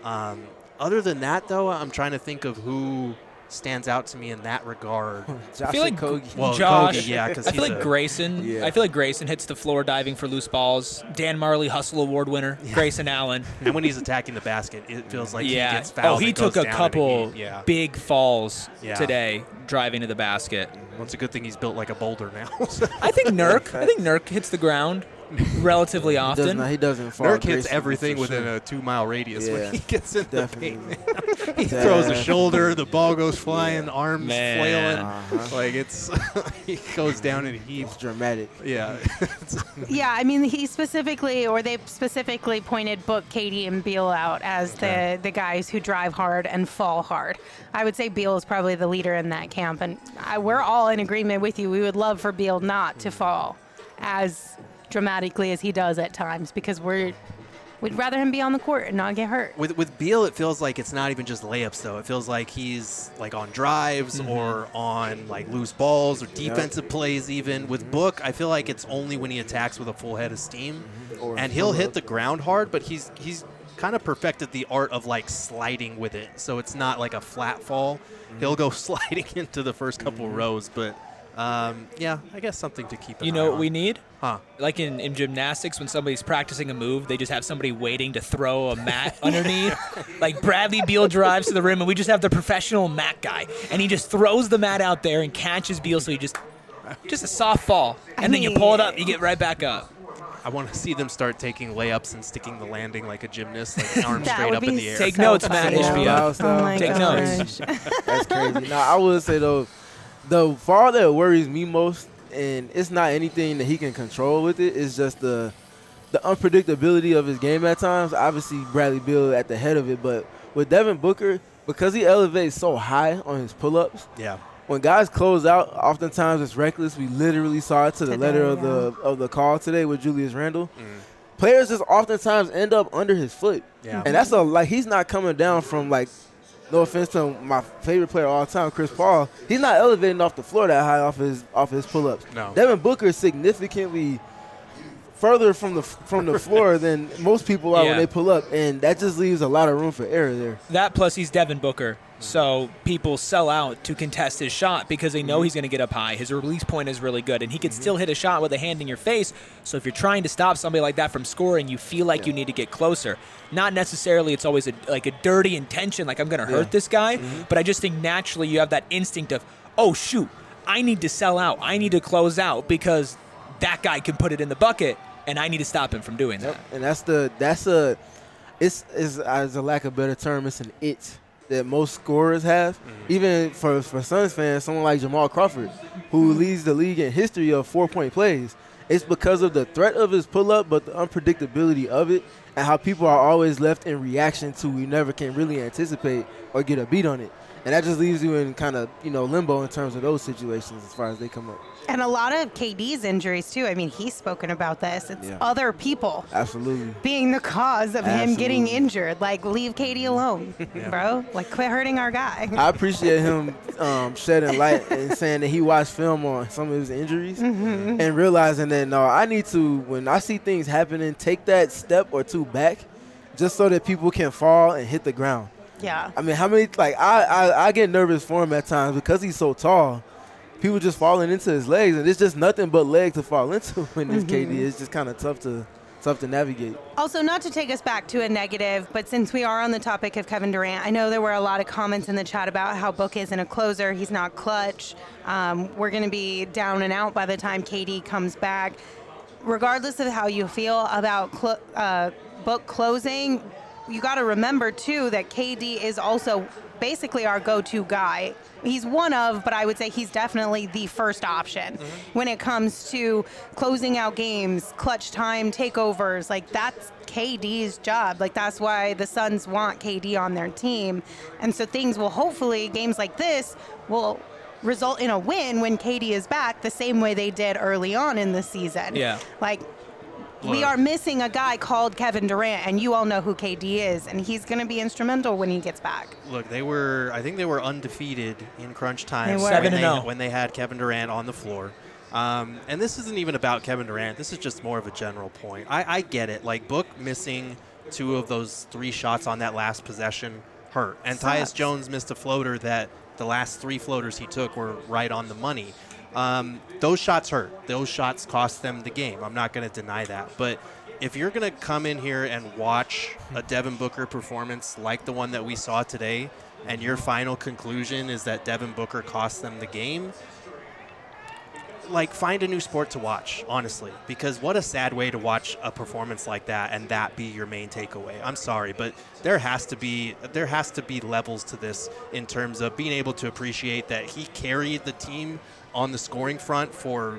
Other than that, though, I'm trying to think of who stands out to me in that regard.
I feel like
Kogi.
Well,
Josh.
Kogi, yeah, because
I feel like Grayson.
Yeah.
I feel like Grayson hits the floor diving for loose balls. Dan Marley Hustle Award winner. Grayson Allen.
And when he's attacking the basket, it feels like he
Yeah.
gets fouled.
He
and
took
goes
a
down
couple
and he-
big falls
Yeah.
today driving to the basket.
Well, it's a good thing he's built like a boulder now.
I think Nurk hits the ground relatively often.
He doesn't fall.
Nurk hits
gracefully,
everything
for
within
sure.
a 2-mile radius
Yeah,
when he gets in
definitely.
the paint. He throws a shoulder, the ball goes flying, arms
Man.
flailing. Like it's he goes down in heaps.
It's dramatic.
Yeah.
Yeah, I mean, they specifically pointed Book, Katie, and Beal out as the guys who drive hard and fall hard. I would say Beal is probably the leader in that camp, and we're all in agreement with you. We would love for Beal not to fall as dramatically as he does at times, because we'd rather him be on the court and not get hurt.
With Beal, it feels like it's not even just layups, though. It feels like he's like on drives or on like loose balls or defensive plays even. With Book, I feel like it's only when he attacks with a full head of steam. And he'll hit the ground hard, but he's kind of perfected the art of like sliding with it. So it's not like a flat fall. He'll go sliding into the first couple rows, but yeah, I guess something to keep an eye
You know
on.
what we need?
Huh.
Like in gymnastics, when somebody's practicing a move, they just have somebody waiting to throw a mat underneath. Like Bradley Beal drives to the rim, and we just have the professional mat guy, and he just throws the mat out there and catches Beal, so he just a soft fall, and then you pull it up, you get right back up.
I want to see them start taking layups and sticking the landing like a gymnast, like arms
That
straight
would
up in
be
the air.
Take
so
notes, Matt
funny.
HBO.
Oh my
Take
gosh.
That's crazy. Now, I would say, though, the fall that worries me most, and it's not anything that he can control with it, it's just the unpredictability of his game at times. Obviously, Bradley Beal at the head of it, but with Devin Booker, because he elevates so high on his pull-ups,
Yeah.
when guys close out, oftentimes it's reckless. We literally saw it to the
Today,
letter
yeah.
of the call today with Julius Randle. Players just oftentimes end up under his foot.
Yeah.
And that's he's not coming down from like no offense to my favorite player of all time, Chris Paul, he's not elevating off the floor that high off his pull-ups.
No.
Devin Booker is significantly further from the floor than most people are when they pull up, and that just leaves a lot of room for error there.
That plus he's Devin Booker. So people sell out to contest his shot because they know he's going to get up high. His release point is really good, and he can still hit a shot with a hand in your face. So if you're trying to stop somebody like that from scoring, you feel like you need to get closer. Not necessarily it's always a dirty intention, like I'm going to hurt this guy, but I just think naturally you have that instinct of, oh, shoot, I need to sell out. I need to close out because that guy can put it in the bucket, and I need to stop him from doing that.
And it's as a lack of a better term, it's an it that most scorers have. Even for Suns fans, someone like Jamal Crawford, who leads the league in history of 4-point plays, it's because of the threat of his pull-up, but the unpredictability of it and how people are always left in reaction to you never can really anticipate or get a beat on it. And that just leaves you in kind of, limbo in terms of those situations as far as they come up.
And a lot of KD's injuries, too. I mean, he's spoken about this. It's other people
Absolutely
being the cause of him getting injured. Like, leave KD alone, bro. Like, quit hurting our guy.
I appreciate him shedding light and saying that he watched film on some of his injuries and realizing that, no, I need to, when I see things happening, take that step or two back just so that people can fall and hit the ground.
Yeah.
I mean, how many, I get nervous for him at times because he's so tall. People just falling into his legs, and it's just nothing but leg to fall into when this KD. It's just kind of tough to navigate.
Also, not to take us back to a negative, but since we are on the topic of Kevin Durant, I know there were a lot of comments in the chat about how Book isn't a closer. He's not clutch. We're going to be down and out by the time KD comes back. Regardless of how you feel about Book closing, you got to remember, too, that KD is also basically our go-to guy. He's one of, but I would say he's definitely the first option when it comes to closing out games, clutch time, takeovers. Like, that's KD's job. Like, that's why the Suns want KD on their team. And so things will hopefully, games like this will result in a win when KD is back the same way they did early on in the season.
Yeah.
Like, we are missing a guy called Kevin Durant, and you all know who KD is, and he's going to be instrumental when he gets back.
Look, I think they were undefeated in crunch time
7-0
when they had Kevin Durant on the floor. And this isn't even about Kevin Durant. This is just more of a general point. I get it. Like, Book missing 2 of those 3 shots on that last possession hurt. And Tyus Jones missed a floater that the last 3 floaters he took were right on the money. Those shots hurt. Those shots cost them the game. I'm not going to deny that. But if you're going to come in here and watch a Devin Booker performance like the one that we saw today, and your final conclusion is that Devin Booker cost them the game, like, find a new sport to watch, honestly, because what a sad way to watch a performance like that and that be your main takeaway. I'm sorry, but there has to be levels to this in terms of being able to appreciate that he carried the team on the scoring front for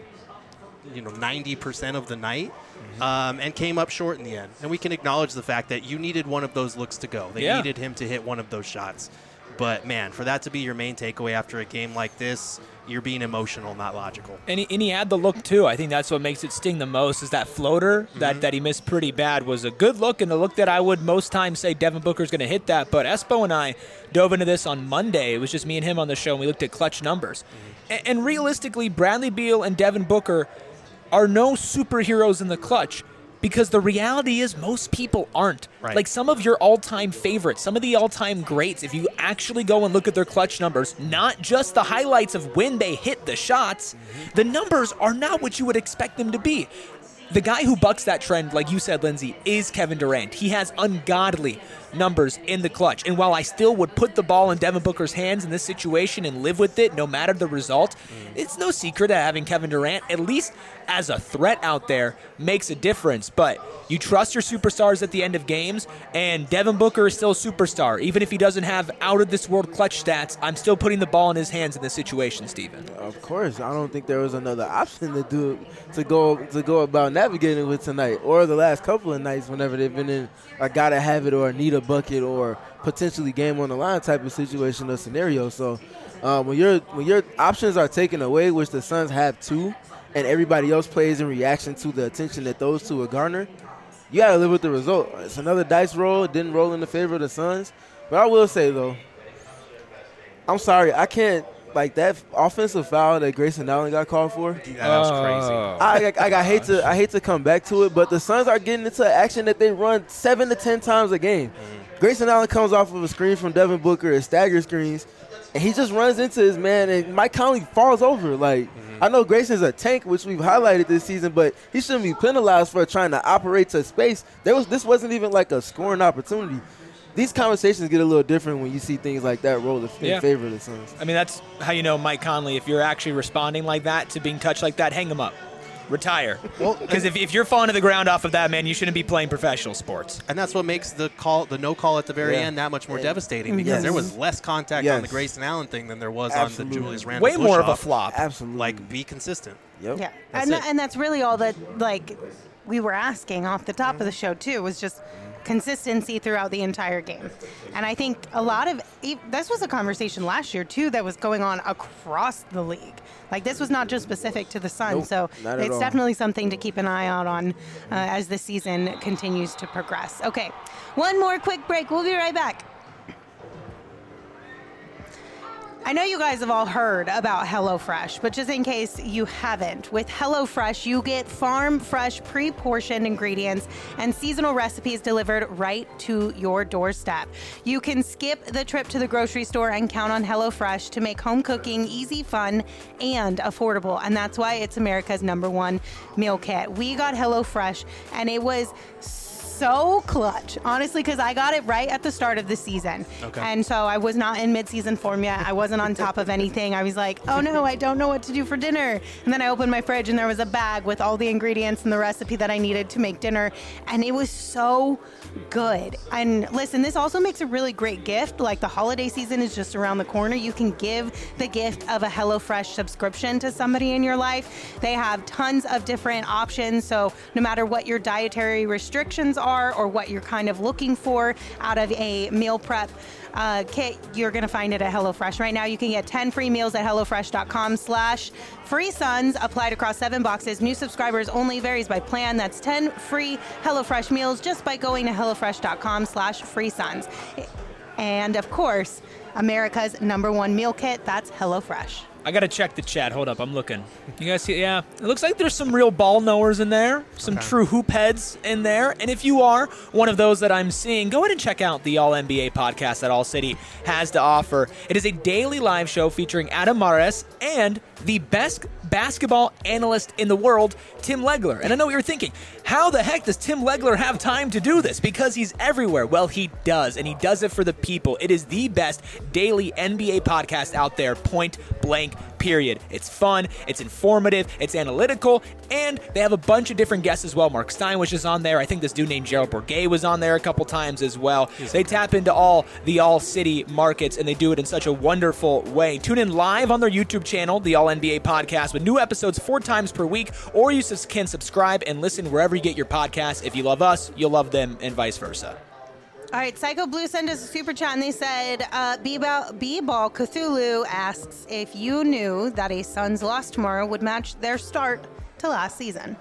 90% of the night and came up short in the end. And we can acknowledge the fact that you needed one of those looks to go. They needed him to hit one of those shots. But, man, for that to be your main takeaway after a game like this, you're being emotional, not logical.
And he had the look, too. I think that's what makes it sting the most is that floater that he missed pretty bad was a good look, and a look that I would most times say Devin Booker's going to hit that. But Espo and I dove into this on Monday. It was just me and him on the show, and we looked at clutch numbers. And realistically, Bradley Beal and Devin Booker are no superheroes in the clutch. Because the reality is most people aren't.
Right.
Like some of your all-time favorites, some of the all-time greats, if you actually go and look at their clutch numbers, not just the highlights of when they hit the shots, the numbers are not what you would expect them to be. The guy who bucks that trend, like you said, Lindsay, is Kevin Durant. He has ungodly numbers in the clutch. And while I still would put the ball in Devin Booker's hands in this situation and live with it no matter the result, it's no secret that having Kevin Durant, at least as a threat out there, makes a difference. But you trust your superstars at the end of games, and Devin Booker is still a superstar. Even if he doesn't have out-of-this-world clutch stats, I'm still putting the ball in his hands in this situation, Steven.
Of course. I don't think there was another option to go about navigating with tonight or the last couple of nights whenever they've been in a gotta have it or need a bucket or potentially game on the line type of situation or scenario. So when your options are taken away, which the Suns have too, and everybody else plays in reaction to the attention that those two will garner, you got to live with the result. It's another dice roll. It didn't roll in the favor of the Suns. But I will say, though, I'm sorry, I can't. Like that offensive foul that Grayson Allen got called for.
Yeah, that was crazy.
I hate to come back to it, but the Suns are getting into action that they run 7 to 10 times a game. Grayson Allen comes off of a screen from Devin Booker, a stagger screens, and he just runs into his man, and Mike Conley falls over. Like, I know Grayson's a tank, which we've highlighted this season, but he shouldn't be penalized for trying to operate to space. This wasn't even like a scoring opportunity. These conversations get a little different when you see things like that roll in favor of the Suns.
I mean, that's how you know Mike Conley. If you're actually responding like that to being touched like that, hang him up. Retire. Because if you're falling to the ground off of that, man, you shouldn't be playing professional sports.
And that's what makes the no call at the very end that much more devastating, because there was less contact on the Grayson Allen thing than there was on the Julius Randle.
Way more of a flop.
Absolutely.
Like, be consistent.
Yep.
Yeah, and that's really all that we were asking off the top of the show too, was just consistency throughout the entire game. And I think a lot of this was a conversation last year too that was going on across the league. Like, this was not just specific to the Suns, so it's definitely something to keep an eye out on as the season continues to progress. Okay, one more quick break. We'll be right back. I know you guys have all heard about HelloFresh, but just in case you haven't, with HelloFresh, you get farm-fresh, pre-portioned ingredients and seasonal recipes delivered right to your doorstep. You can skip the trip to the grocery store and count on HelloFresh to make home cooking easy, fun, and affordable. And that's why it's America's #1 meal kit. We got HelloFresh, and it was so clutch, honestly, because I got it right at the start of the season.
Okay.
And so I was not in mid-season form yet. I wasn't on top of anything. I was like, oh no, I don't know what to do for dinner. And then I opened my fridge and there was a bag with all the ingredients and the recipe that I needed to make dinner. And it was so good. And listen, this also makes a really great gift. Like, the holiday season is just around the corner. You can give the gift of a HelloFresh subscription to somebody in your life. They have tons of different options. So no matter what your dietary restrictions are or what you're kind of looking for out of a meal prep kit, you're going to find it at HelloFresh. Right now, you can get 10 free meals at HelloFresh.com/FreeSuns, applied across 7 boxes. New subscribers only, varies by plan. That's 10 free HelloFresh meals just by going to HelloFresh.com/FreeSuns. And of course, America's #1 meal kit, that's HelloFresh.
I got to check the chat. Hold up. I'm looking. You guys see? Yeah. It looks like there's some real ball knowers in there, some true hoop heads in there. And if you are one of those that I'm seeing, go ahead and check out the All-NBA podcast that All City has to offer. It is a daily live show featuring Adam Mares and the best basketball analyst in the world, Tim Legler. And I know what you're thinking, how the heck does Tim Legler have time to do this? Because he's everywhere. Well, he does, and he does it for the people. It is the best daily NBA podcast out there, point blank, period. It's fun, it's informative, it's analytical, and they have a bunch of different guests as well. Mark Stein was just on there. I think this dude named Gerald Bourguet was on there a couple times as well. They tap into all the All-City markets, and they do it in such a wonderful way. Tune in live on their YouTube channel, the All-NBA Podcast, with new episodes 4 times per week, or you can subscribe and listen wherever you get your podcasts. If you love us, you'll love them, and vice versa.
All right, Psycho Blue sent us a super chat, and they said, B-Ball Cthulhu asks if you knew that a Suns loss tomorrow would match their start to last season.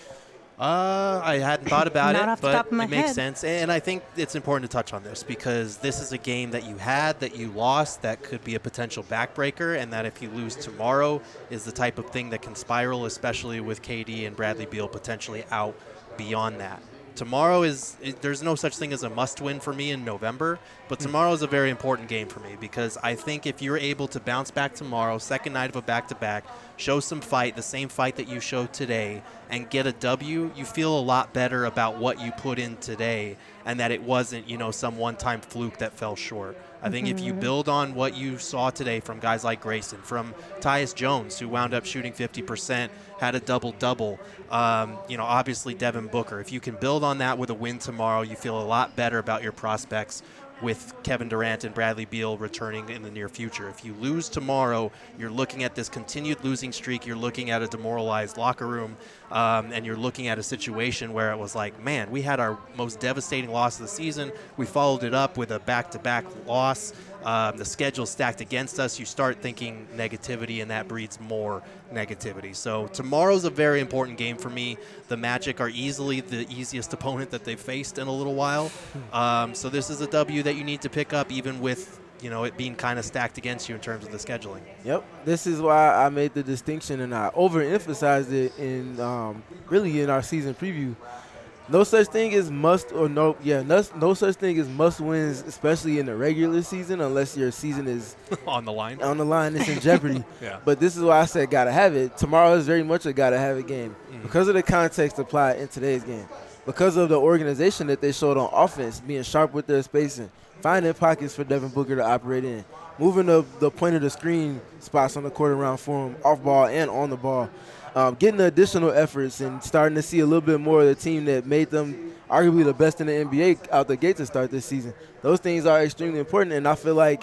I hadn't thought about
Not
it,
off the
but
top of my
it makes
head.
sense. And I think it's important to touch on this because this is a game that you had, that you lost, that could be a potential backbreaker, and that if you lose tomorrow is the type of thing that can spiral, especially with KD and Bradley Beal potentially out beyond that. Tomorrow there's no such thing as a must-win for me in November, but tomorrow is a very important game for me because I think if you're able to bounce back tomorrow, second night of a back-to-back, show some fight, the same fight that you showed today, and get a W, you feel a lot better about what you put in today and that it wasn't, some one-time fluke that fell short. I think if you build on what you saw today from guys like Grayson, from Tyus Jones, who wound up shooting 50%, had a double-double, obviously Devin Booker. If you can build on that with a win tomorrow, you feel a lot better about your prospects with Kevin Durant and Bradley Beal returning in the near future. If you lose tomorrow, you're looking at this continued losing streak. You're looking at a demoralized locker room, and you're looking at a situation where it was like, man, we had our most devastating loss of the season. We followed it up with a back-to-back loss. The schedule stacked against us. You start thinking negativity, and that breeds more negativity. So tomorrow's a very important game for me. The Magic are easily the easiest opponent that they've faced in a little while. So this is a W that you need to pick up, even with it being kind of stacked against you in terms of the scheduling.
Yep. This is why I made the distinction and I overemphasized it in really in our season preview. No such thing as no such thing as must wins, especially in the regular season, unless your season is
on the line.
It's in jeopardy.
Yeah.
But this is why I said gotta have it. Tomorrow is very much a gotta have it game because of the context applied in today's game, because of the organization that they showed on offense, being sharp with their spacing, finding pockets for Devin Booker to operate in, moving the point of the screen spots on the court around for him, off ball and on the ball. Getting the additional efforts and starting to see a little bit more of the team that made them arguably the best in the NBA out the gate to start this season. Those things are extremely important, and I feel like,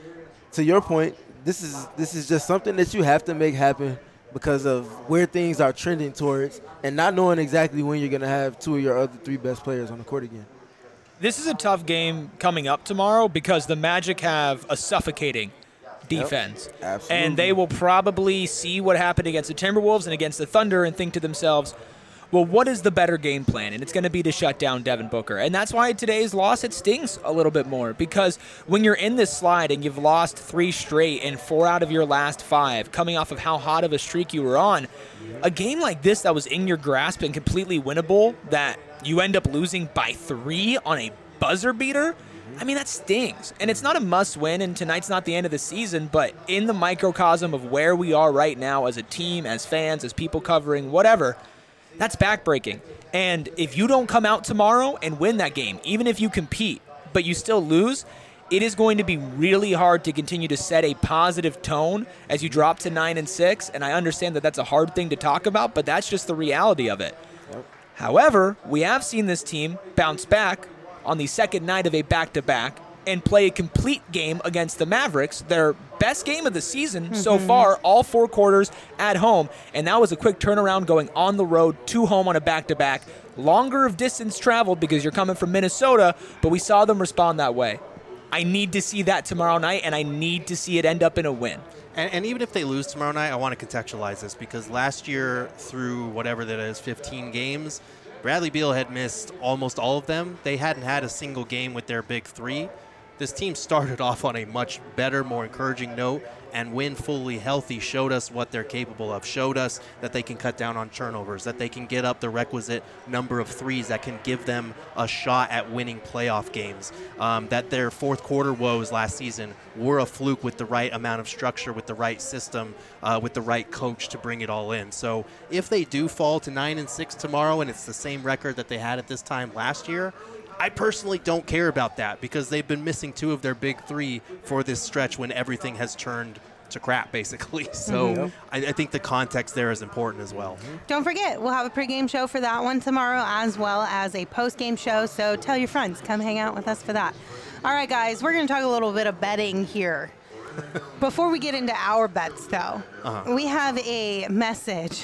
to your point, this is just something that you have to make happen because of where things are trending towards and not knowing exactly when you're going to have two of your other three best players on the court again.
This is a tough game coming up tomorrow because the Magic have a suffocating defense.
Yep, absolutely.
And they will probably see what happened against the Timberwolves and against the Thunder and think to themselves, well, what is the better game plan? And it's going to be to shut down Devin Booker. And that's why today's loss, it stings a little bit more, because when you're in this slide and you've lost 3 straight and 4 out of your last 5, coming off of how hot of a streak you were on, a game like this that was in your grasp and completely winnable, that you end up losing by 3 on a buzzer beater, I mean, that stings. And it's not a must-win, and tonight's not the end of the season, but in the microcosm of where we are right now as a team, as fans, as people covering, whatever, that's backbreaking. And if you don't come out tomorrow and win that game, even if you compete, but you still lose, it is going to be really hard to continue to set a positive tone as you drop to 9-6, and I understand that that's a hard thing to talk about, but that's just the reality of it.
Yep.
However, we have seen this team bounce back on the second night of a back-to-back and play a complete game against the Mavericks, their best game of the season so far, all 4 quarters at home. And that was a quick turnaround going on the road to home on a back-to-back. Longer of distance traveled because you're coming from Minnesota, but we saw them respond that way. I need to see that tomorrow night, and I need to see it end up in a win.
And even if they lose tomorrow night, I want to contextualize this because last year through whatever that is, 15 games, Bradley Beal had missed almost all of them. They hadn't had a single game with their big 3. This team started off on a much better, more encouraging note, and when fully healthy, showed us what they're capable of, showed us that they can cut down on turnovers, that they can get up the requisite number of threes that can give them a shot at winning playoff games, that their fourth quarter woes last season were a fluke with the right amount of structure, with the right system, with the right coach to bring it all in. So if they do fall to 9-6 tomorrow and it's the same record that they had at this time last year, I personally don't care about that because they've been missing 2 of their big 3 for this stretch when everything has turned to crap, basically. So I think the context there is important as well.
Don't forget, we'll have a pregame show for that one tomorrow as well as a postgame show. So tell your friends, come hang out with us for that. All right, guys, we're going to talk a little bit of betting here. Before we get into our bets, though, we have a message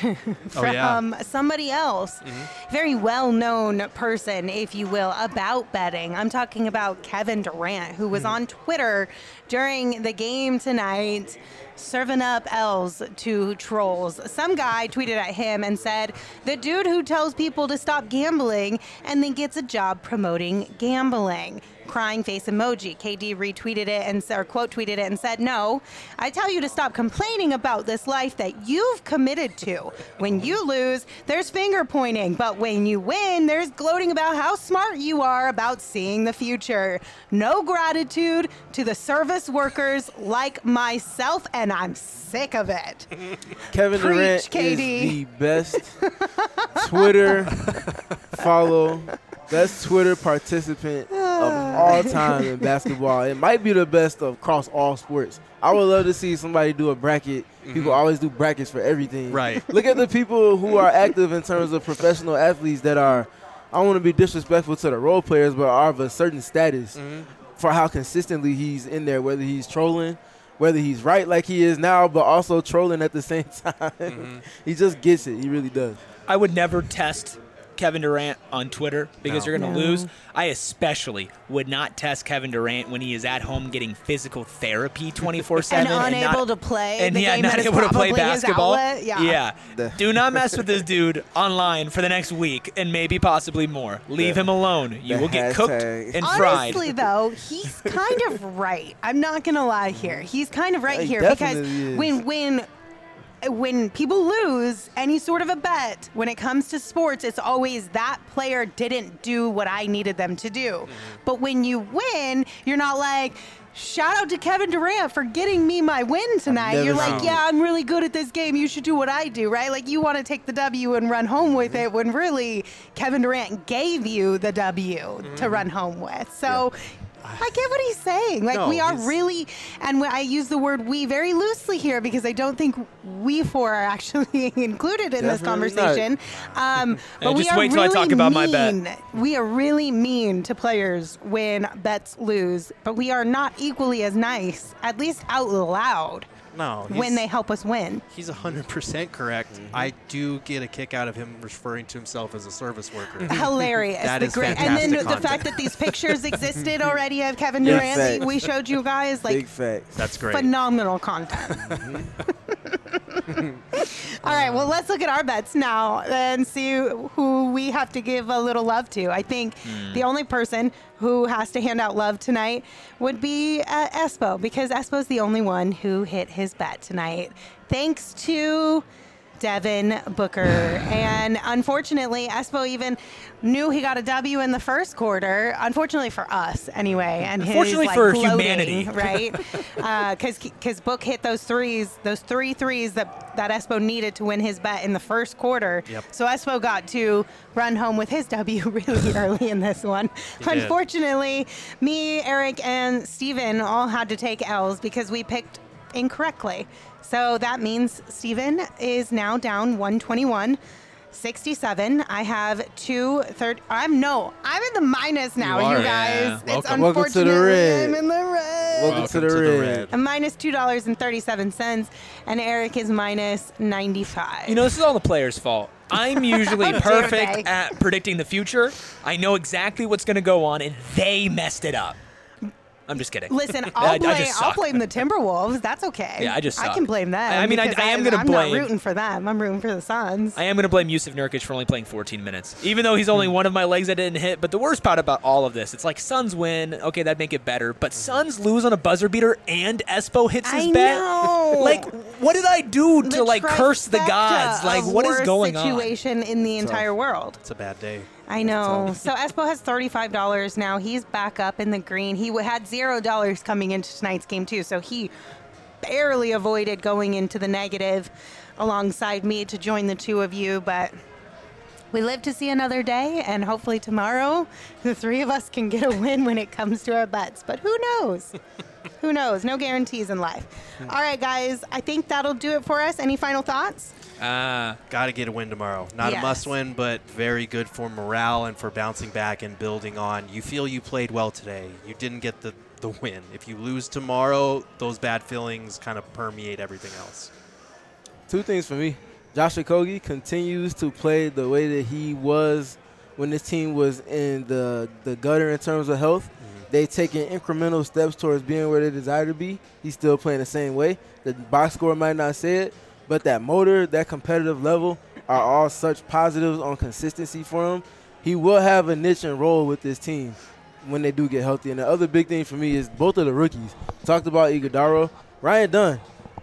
from somebody else, very well-known person, if you will, about betting. I'm talking about Kevin Durant, who was on Twitter during the game tonight, serving up L's to trolls. Some guy tweeted at him and said, "The dude who tells people to stop gambling and then gets a job promoting gambling." Crying face emoji. KD retweeted it or quote tweeted it and said, "No, I tell you to stop complaining about this life that you've committed to. When you lose, there's finger pointing, but when you win, there's gloating about how smart you are about seeing the future. No gratitude to the service workers like myself, and I'm sick of it."
Kevin
Preach,
Durant
KD.
is the best Twitter follow, best Twitter participant of all time in basketball. It might be the best across all sports. I would love to see somebody do a bracket. People always do brackets for everything.
Right.
Look at the people who are active in terms of professional athletes that are, I don't want to be disrespectful to the role players, but are of a certain status for how consistently he's in there, whether he's trolling, whether he's right like he is now, but also trolling at the same time. He just gets it. He really does.
I would never test Kevin Durant on Twitter because
No.
you're going to
No.
lose. I especially would not test Kevin Durant when he is at home getting physical therapy 24/7
And unable to play
and
the
yeah,
game
not
that is
able to play
probably his
basketball.
outlet. Yeah.
Do not mess with this dude online for the next week and maybe possibly more. Leave him alone. You
the
will get cooked
hashtag.
and fried.
Honestly, though, he's kind of right. I'm not gonna lie here. He's kind of right
He
here because
definitely is.
when people lose any sort of a bet, when it comes to sports, it's always that player didn't do what I needed them to do. But when you win, you're not like, shout out to Kevin Durant for getting me my win tonight.
never
You're like,
seen
yeah, I'm really good at this game. You should do what I do, right? Like, you want to take the W and run home with it when really Kevin Durant gave you the W to run home with. So I get what he's saying. Like,
No,
we are
he's-
really, and I use the word we very loosely here because I don't think we four are actually included in this
Definitely not.
conversation. But we
just
are
wait till I
really
talk about my bet.
mean. We are really mean to players when bets lose, but we are not equally as nice, at least out loud,
No,
when they help us win.
He's 100% correct. I do get a kick out of him referring to himself as a service worker.
Hilarious.
That
The
is
great, and then
fantastic
the
content.
fact that these pictures existed already of Kevin
Big
Durant,
facts.
we showed you guys, like,
Big facts.
That's great.
phenomenal content. All right, well, let's look at our bets now and see who we have to give a little love to. I think the only person who has to hand out love tonight would be Espo, because Espo's the only one who hit his bet tonight. Thanks to Devin Booker. And unfortunately, Espo even knew he got a W in the first quarter. Unfortunately for us, anyway. And
Unfortunately
his,
for
gloating,
humanity.
right? Because Book hit those three threes that Espo needed to win his bet in the first quarter.
Yep.
So Espo got to run home with his W really early in this one.
He did.
Unfortunately, me, Eric, and Steven all had to take L's because we picked incorrectly. So that means Steven is now down 121-67. I have I'm in the minus now,
You
you
are,
guys.
yeah.
It's
Welcome.
Welcome to the
unfortunate.
red.
I'm in the red.
Welcome to the red.
I'm minus $2.37, and Eric is minus 95.
You know, this is all the players' fault. I'm usually
How dare they.
perfect at predicting the future. I know exactly what's going to go on, and they messed it up. I'm just kidding.
Listen,
I
I'll
just suck.
blame the Timberwolves. That's okay.
Yeah, I just
I
suck.
can blame them.
I mean, I
because
am gonna
I'm
blame-
not rooting for them. I'm rooting for the Suns.
I am going to blame Yusuf Nurkic for only playing 14 minutes, even though he's only one of my legs that didn't hit. But the worst part about all of this, it's like Suns win. Okay, that'd make it better. But Suns lose on a buzzer beater and Espo hits his
I
bet.
know.
Like, what did I do to,
The
like, curse the
trifecta
gods? Like,
of
what is
worst
going on?
situation in the entire world.
It's a bad day.
I know. So Espo has $35 now. He's back up in the green. He had $0 coming into tonight's game too, so he barely avoided going into the negative alongside me to join the two of you. But we live to see another day, and hopefully tomorrow the three of us can get a win when it comes to our bets. But who knows? Who knows? No guarantees in life. All right, guys. I think that'll do it for us. Any final thoughts?
Got to get a win tomorrow. Not
Yes.
a must win, but very good for morale and for bouncing back and building on. You feel you played well today. You didn't get the win. If you lose tomorrow, those bad feelings kind of permeate everything else.
Two things for me. Josh Okogie continues to play the way that he was when this team was in the gutter in terms of health. They taking incremental steps towards being where they desire to be. He's still playing the same way. The box score might not say it, but that motor, that competitive level are all such positives on consistency for him. He will have a niche and role with this team when they do get healthy. And the other big thing for me is both of the rookies. Talked about Iguodala, Ryan Dunn.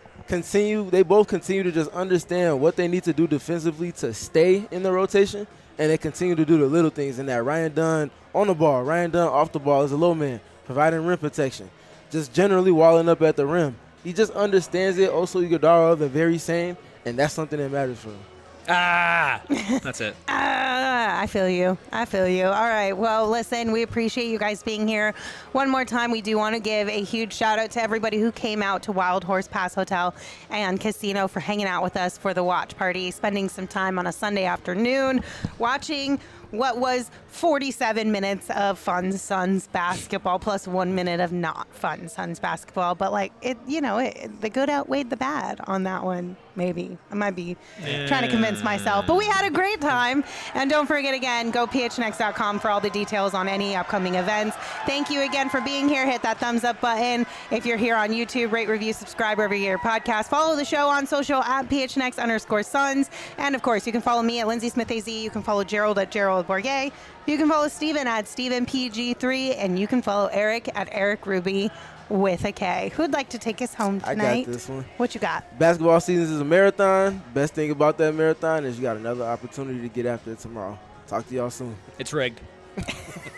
They both continue to just understand what they need to do defensively to stay in the rotation, and they continue to do the little things in that. Ryan Dunn on the ball, Ryan Dunn off the ball as a low man, providing rim protection, just generally walling up at the rim. He just understands it. Also, Iguodala, the very same, and that's something that matters for him.
That's it.
I feel you. I feel you. All right. Well, listen, we appreciate you guys being here. One more time, we do want to give a huge shout out to everybody who came out to Wild Horse Pass Hotel and Casino for hanging out with us for the watch party, spending some time on a Sunday afternoon, watching what was 47 minutes of fun Suns basketball plus 1 minute of not fun Suns basketball. But like the good outweighed the bad on that one. maybe. I might be trying to convince myself. But we had a great time. And don't forget, again, go phnx.com for all the details on any upcoming events. Thank you again for being here. Hit that thumbs up button. If you're here on YouTube, rate, review, subscribe wherever you hear podcast. Follow the show on social at phnx_Suns. And, of course, you can follow me at Lindsay Smith AZ. You can follow Gerald at Gerald Bourget. You can follow Steven at StevenPG3. And you can follow Eric at Eric Ruby with a K. Who'd like to take us home tonight?
I got this one.
What you got?
Basketball season is a marathon. Best thing about that marathon is you got another opportunity to get after it tomorrow. Talk to y'all soon.
It's rigged.